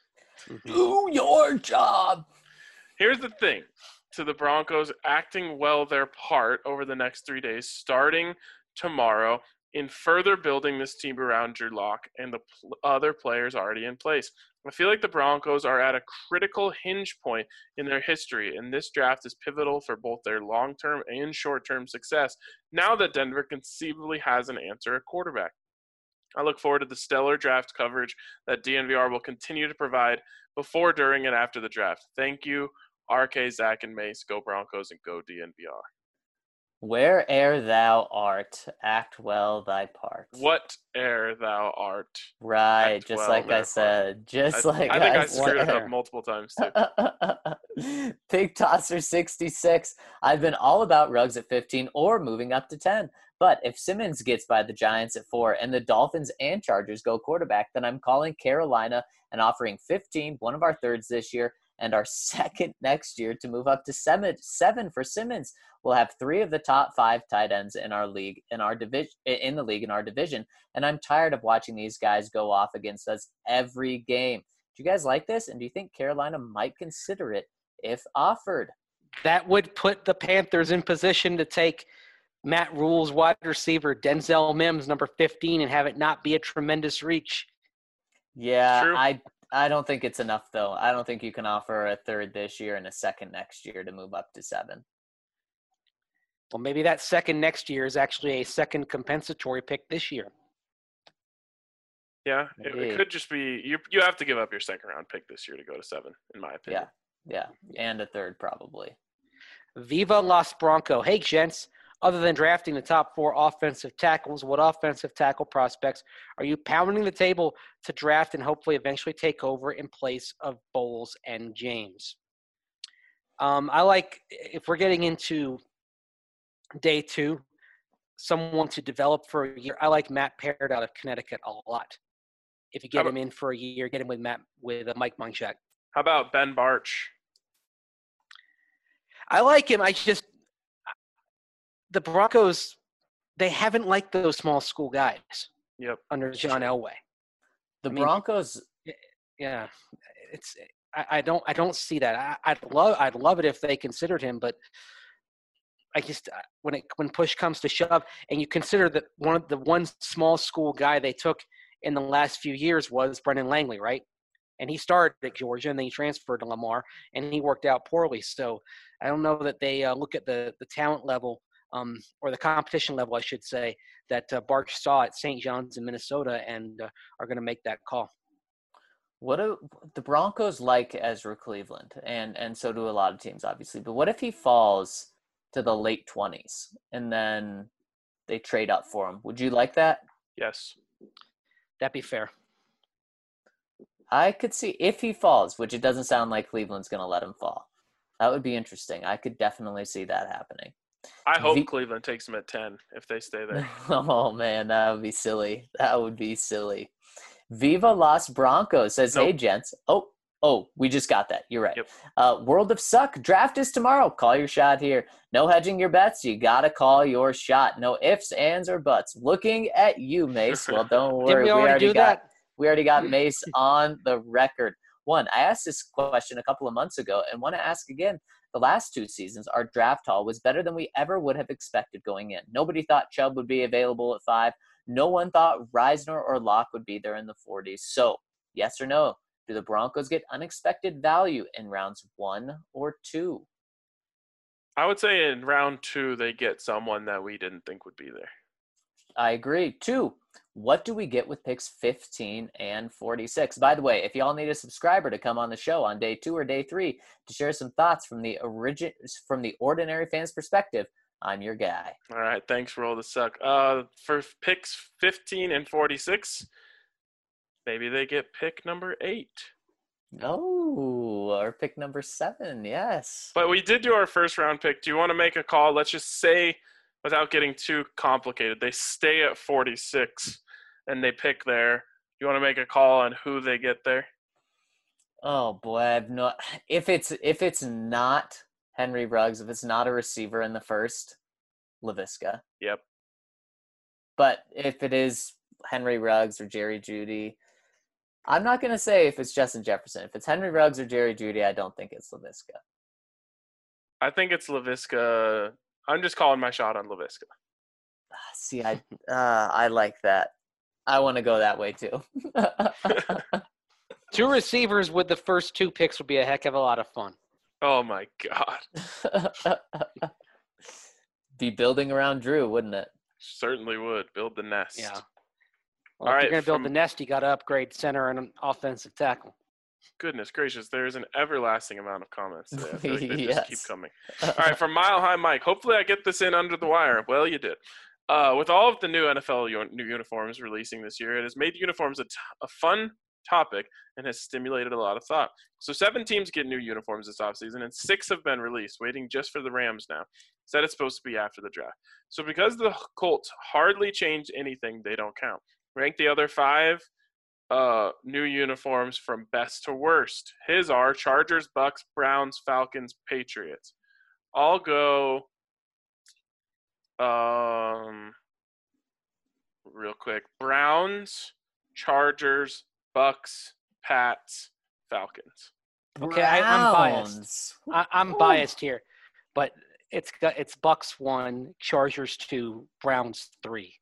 Do your job. Here's the thing. To the Broncos acting well their part over the next 3 days, starting tomorrow, in further building this team around Drew Lock and the other players already in place. I feel like the Broncos are at a critical hinge point in their history, and this draft is pivotal for both their long-term and short-term success now that Denver conceivably has an answer at quarterback. I look forward to the stellar draft coverage that DNVR will continue to provide before, during, and after the draft. Thank you, RK, Zach, and Mace. Go Broncos and go DNVR. Where'er thou art, act well thy part. Whate'er thou art. Right, act just well like I their said. Just like I think I I screwed it said. up multiple times too. Pig Tosser 66. I've been all about Ruggs at 15 or moving up to 10. But if Simmons gets by the Giants at 4 and the Dolphins and Chargers go quarterback, then I'm calling Carolina and offering 15, one of our thirds this year, and our second next year to move up to 7 for Simmons. We'll have 3 of the top 5 tight ends in our league, in our division, and I'm tired of watching these guys go off against us every game. Do you guys like this? And do you think Carolina might consider it if offered? That would put the Panthers in position to take Matt Rule's wide receiver, Denzel Mims, number 15, and have it not be a tremendous reach. Yeah, True. I don't think it's enough, though. I don't think you can offer a third this year and a second next year to move up to 7. Well, maybe that second next year is actually a second compensatory pick this year. Yeah, it could just be you have to give up your second round pick this year to go to 7, in my opinion. Yeah, and a third probably. Viva Los Bronco. Hey, gents. Other than drafting the top 4 offensive tackles, what offensive tackle prospects are you pounding the table to draft and hopefully eventually take over in place of Bowles and James? I like, if we're getting into day 2, someone to develop for a year, I like Matt Parrott out of Connecticut a lot. If you get him in for a year, get him with Mike Munchak. How about Ben Barch? I like him. The Broncos, they haven't liked those small school guys. Yep. Under John Elway. Broncos. Yeah, I don't see that. I'd love it if they considered him, but I just when push comes to shove, and you consider that one small school guy they took in the last few years was Brendan Langley, right? And he started at Georgia, and then he transferred to Lamar, and he worked out poorly. So I don't know that they look at the talent level, or the competition level, I should say, that Barch saw at St. John's in Minnesota, and are going to make that call. What do the Broncos like Ezra Cleveland, and so do a lot of teams, obviously. But what if he falls to the late 20s and then they trade up for him? Would you like that? Yes. That'd be fair. I could see if he falls, which it doesn't sound like Cleveland's going to let him fall. That would be interesting. I could definitely see that happening. I hope Cleveland takes him at 10 if they stay there. Oh, man, that would be silly. That would be silly. Viva Los Broncos says, Hey, gents. Oh, we just got that. You're right. Yep. World of Suck. Draft is tomorrow. Call your shot here. No hedging your bets. You got to call your shot. No ifs, ands, or buts. Looking at you, Mace. Well, don't worry. We already got Mace on the record. I asked this question a couple of months ago and want to ask again. The last 2 seasons, our draft haul was better than we ever would have expected going in. Nobody thought Chubb would be available at 5. No one thought Reisner or Locke would be there in the 40s. So, yes or no? Do the Broncos get unexpected value in rounds 1 or 2? I would say in round 2 they get someone that we didn't think would be there. I agree. 2, what do we get with picks 15 and 46? By the way, if y'all need a subscriber to come on the show on day 2 or day 3 to share some thoughts from the ordinary fan's perspective, I'm your guy. All right, thanks, Roll the Suck. For picks 15 and 46, maybe they get pick number 8. Oh, our pick number 7, yes. But we did do our first round pick. Do you want to make a call? Let's just say, without getting too complicated, they stay at 46 and they pick there. Do you want to make a call on who they get there? Oh boy, I've no. If it's not Henry Ruggs, if it's not a receiver in the first, Laviska. Yep. But if it is Henry Ruggs or Jerry Jeudy, I'm not gonna say if it's Justin Jefferson. If it's Henry Ruggs or Jerry Jeudy, I don't think it's Laviska. I think it's Laviska. I'm just calling my shot on Laviska. See, I like that. I want to go that way too. 2 receivers with the first 2 picks would be a heck of a lot of fun. Oh my God. Be building around Drew, wouldn't it? Certainly would. Build the nest. Yeah. Well, All if right, you're going to build from- the nest, you got to upgrade center and an offensive tackle. Goodness gracious, there is an everlasting amount of comments today. I feel like they just keep Yes. coming. All right, from Mile High Mike. Hopefully I get this in under the wire. Well, you did. With all of the new NFL new uniforms releasing this year, it has made uniforms a fun topic and has stimulated a lot of thought. So 7 teams get new uniforms this offseason, and 6 have been released, waiting just for the Rams now. Said it's supposed to be after the draft. So because the Colts hardly changed anything, they don't count. Rank the other 5 new uniforms from best to worst. His are Chargers, Bucks, Browns, Falcons, Patriots. I'll go real quick. Browns, Chargers, Bucks, Pats, Falcons. Okay, I'm biased. Browns. I'm biased here, but it's Bucks 1, Chargers 2, Browns 3.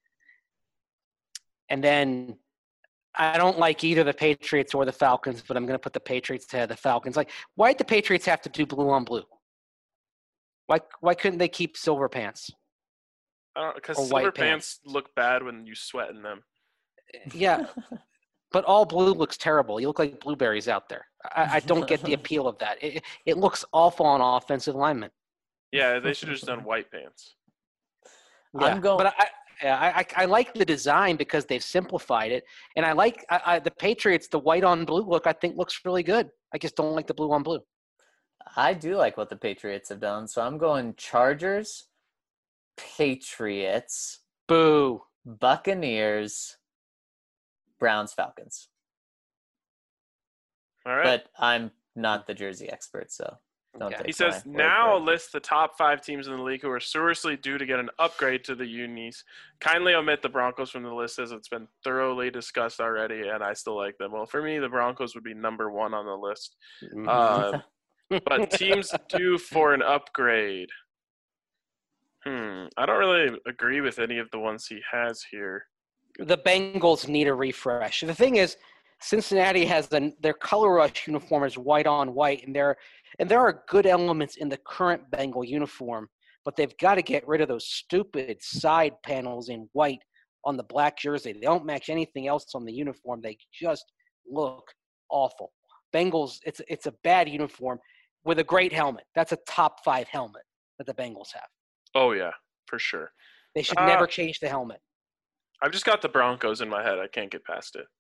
And then I don't like either the Patriots or the Falcons, but I'm going to put the Patriots ahead of the Falcons. Like, why did the Patriots have to do blue on blue? Why couldn't they keep silver pants? Because Or silver white pants look bad when you sweat in them. Yeah, but all blue looks terrible. You look like blueberries out there. I don't get the appeal of that. It looks awful on offensive linemen. Yeah, they should have just done white pants. I'm going. But I like the design because they've simplified it, and I like the Patriots. The white on blue look I think looks really good. I just don't like the blue on blue. I do like what the Patriots have done, so I'm going Chargers, Patriots, Boo. Buccaneers, Browns, Falcons. All right. But I'm not the jersey expert, so don't Okay. take He says, my word now for it. list the top 5 teams in the league who are seriously due to get an upgrade to the unis. Kindly omit the Broncos from the list as it's been thoroughly discussed already, and I still like them. Well, for me, the Broncos would be number 1 on the list. But teams due for an upgrade. I don't really agree with any of the ones he has here. The Bengals need a refresh. The thing is, Cincinnati has their color rush uniform is white on white, and there are good elements in the current Bengal uniform, but they've got to get rid of those stupid side panels in white on the black jersey. They don't match anything else on the uniform. They just look awful. Bengals, it's a bad uniform with a great helmet. That's a top 5 helmet that the Bengals have. Oh, yeah, for sure. They should never change the helmet. I've just got the Broncos in my head. I can't get past it.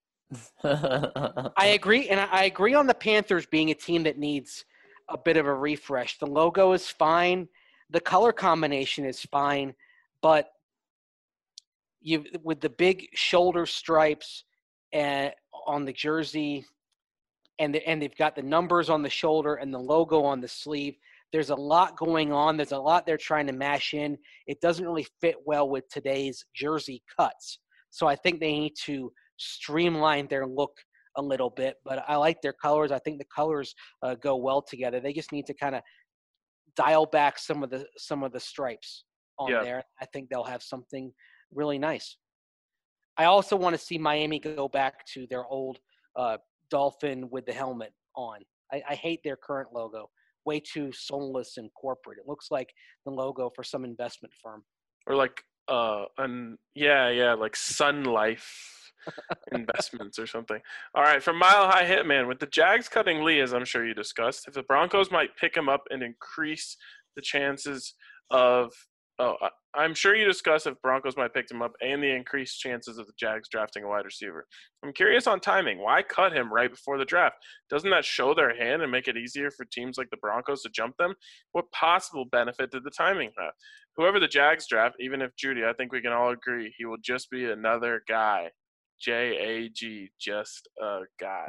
I agree, and I agree on the Panthers being a team that needs a bit of a refresh. The logo is fine, the color combination is fine, but with the big shoulder stripes and on the jersey, and they've got the numbers on the shoulder and the logo on the sleeve. There's a lot going on. There's a lot they're trying to mash in. It doesn't really fit well with today's jersey cuts. So I think they need to streamline their look a little bit. But I like their colors. I think the colors go well together. They just need to kind of dial back some of the stripes on there. I think they'll have something really nice. I also want to see Miami go back to their old dolphin with the helmet on. I hate their current logo. Way too soulless and corporate. It looks like the logo for some investment firm. Or like like Sun Life investments or something. All right, from Mile High Hitman, with the Jags cutting Lee, as I'm sure you discussed, if the Broncos might pick him up and increase the chances of I'm sure you discussed if Broncos might pick him up and the increased chances of the Jags drafting a wide receiver. I'm curious on timing. Why cut him right before the draft? Doesn't that show their hand and make it easier for teams like the Broncos to jump them? What possible benefit did the timing have? Whoever the Jags draft, even if Judy, I think we can all agree he will just be another guy. JAG, just a guy.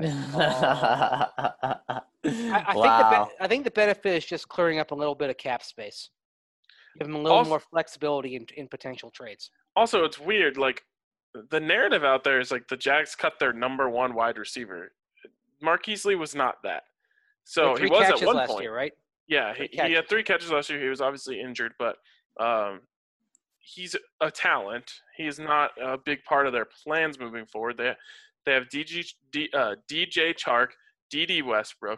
I think the benefit is just clearing up a little bit of cap space. Give them a little more flexibility in potential trades. Also, it's weird. Like, the narrative out there is like the Jags cut their number one wide receiver. Marquise Lee was not that. So he was at one last point. Year, right? Yeah, he had 3 catches last year. He was obviously injured, but he's a talent. He is not a big part of their plans moving forward. They have DJ Chark, D.D. Westbrook.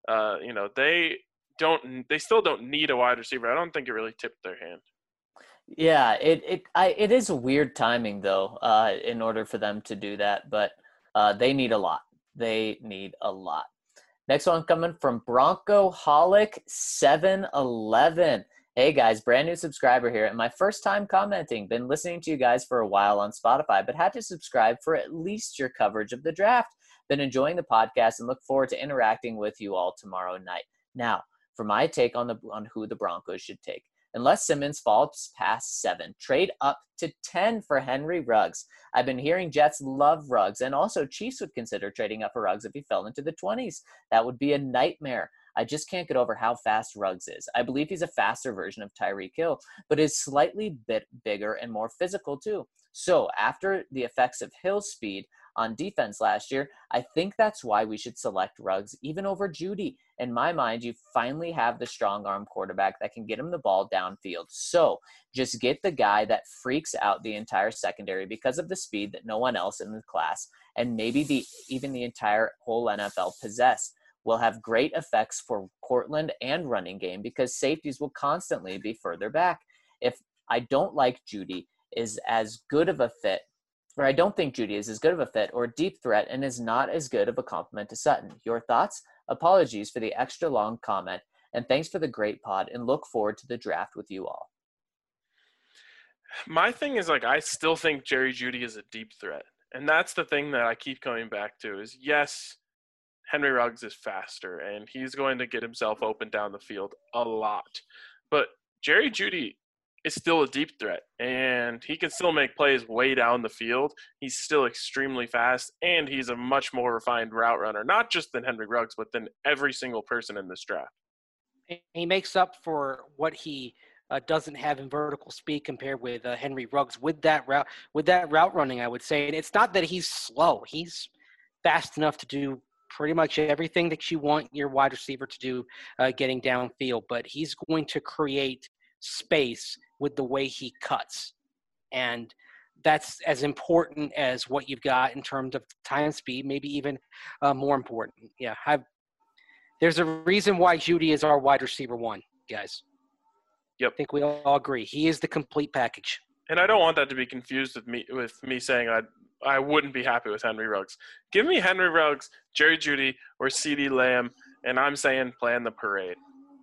They still don't need a wide receiver. I don't think it really tipped their hand. Yeah, it is a weird timing though, in order for them to do that, but they need a lot. They need a lot. Next one coming from Broncoholic 711. Hey guys, brand new subscriber here, and my first time commenting. Been listening to you guys for a while on Spotify, but had to subscribe for at least your coverage of the draft. Been enjoying the podcast and look forward to interacting with you all tomorrow night. Now, for my take on who the Broncos should take. Unless Simmons falls past 7, trade up to 10 for Henry Ruggs. I've been hearing Jets love Ruggs, and also Chiefs would consider trading up for Ruggs if he fell into the 20s. That would be a nightmare. I just can't get over how fast Ruggs is. I believe he's a faster version of Tyreek Hill, but is slightly bit bigger and more physical too. So after the effects of Hill's speed on defense last year, I think that's why we should select Ruggs even over Judy. In my mind, you finally have the strong arm quarterback that can get him the ball downfield. So just get the guy that freaks out the entire secondary because of the speed that no one else in the class, and maybe even the entire whole NFL possess. Will have great effects for Cortland and running game because safeties will constantly be further back. If I don't like Judy is as good of a fit, or I don't think Judy is as good of a fit or deep threat and is not as good of a compliment to Sutton. Your thoughts? Apologies for the extra long comment, and thanks for the great pod, and look forward to the draft with you all. My thing is, like, I still think Jerry Jeudy is a deep threat. And that's the thing that I keep coming back to is, yes, Henry Ruggs is faster, and he's going to get himself open down the field a lot. But Jerry Jeudy is still a deep threat, and he can still make plays way down the field. He's still extremely fast, and he's a much more refined route runner, not just than Henry Ruggs, but than every single person in this draft. He makes up for what he doesn't have in vertical speed compared with Henry Ruggs with that route running, I would say. And it's not that he's slow. He's fast enough to do pretty much everything that you want your wide receiver to do getting downfield, but he's going to create space with the way he cuts. And that's as important as what you've got in terms of time speed, maybe even more important. Yeah, there's a reason why Jeudy is our wide receiver 1, guys. Yep. I think we all agree. He is the complete package. And I don't want that to be confused with me saying I wouldn't be happy with Henry Ruggs. Give me Henry Ruggs, Jerry Jeudy, or CeeDee Lamb, and I'm saying plan the parade.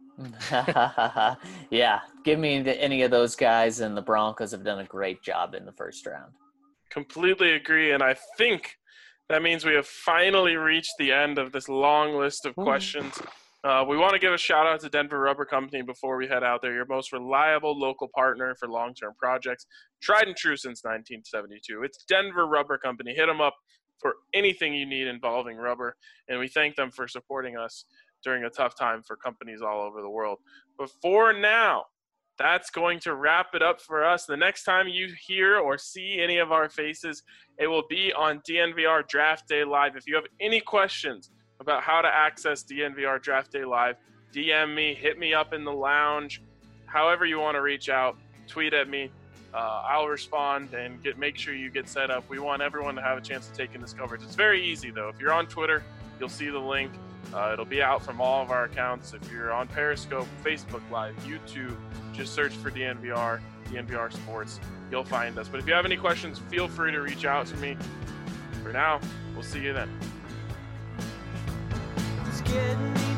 Yeah, give me any of those guys, and the Broncos have done a great job in the first round. Completely agree, and I think that means we have finally reached the end of this long list of questions. We want to give a shout-out to Denver Rubber Company before we head out there, your most reliable local partner for long-term projects, tried and true since 1972. It's Denver Rubber Company. Hit them up for anything you need involving rubber, and we thank them for supporting us during a tough time for companies all over the world. But for now, that's going to wrap it up for us. The next time you hear or see any of our faces, it will be on DNVR Draft Day Live. If you have any questions about how to access DNVR Draft Day Live, DM me, hit me up in the lounge, however you want to reach out, tweet at me. I'll respond and make sure you get set up. We want everyone to have a chance to take in this coverage. It's very easy, though. If you're on Twitter, you'll see the link. It'll be out from all of our accounts. If you're on Periscope, Facebook Live, YouTube, just search for DNVR Sports. You'll find us. But if you have any questions, feel free to reach out to me. For now, we'll see you then. It's getting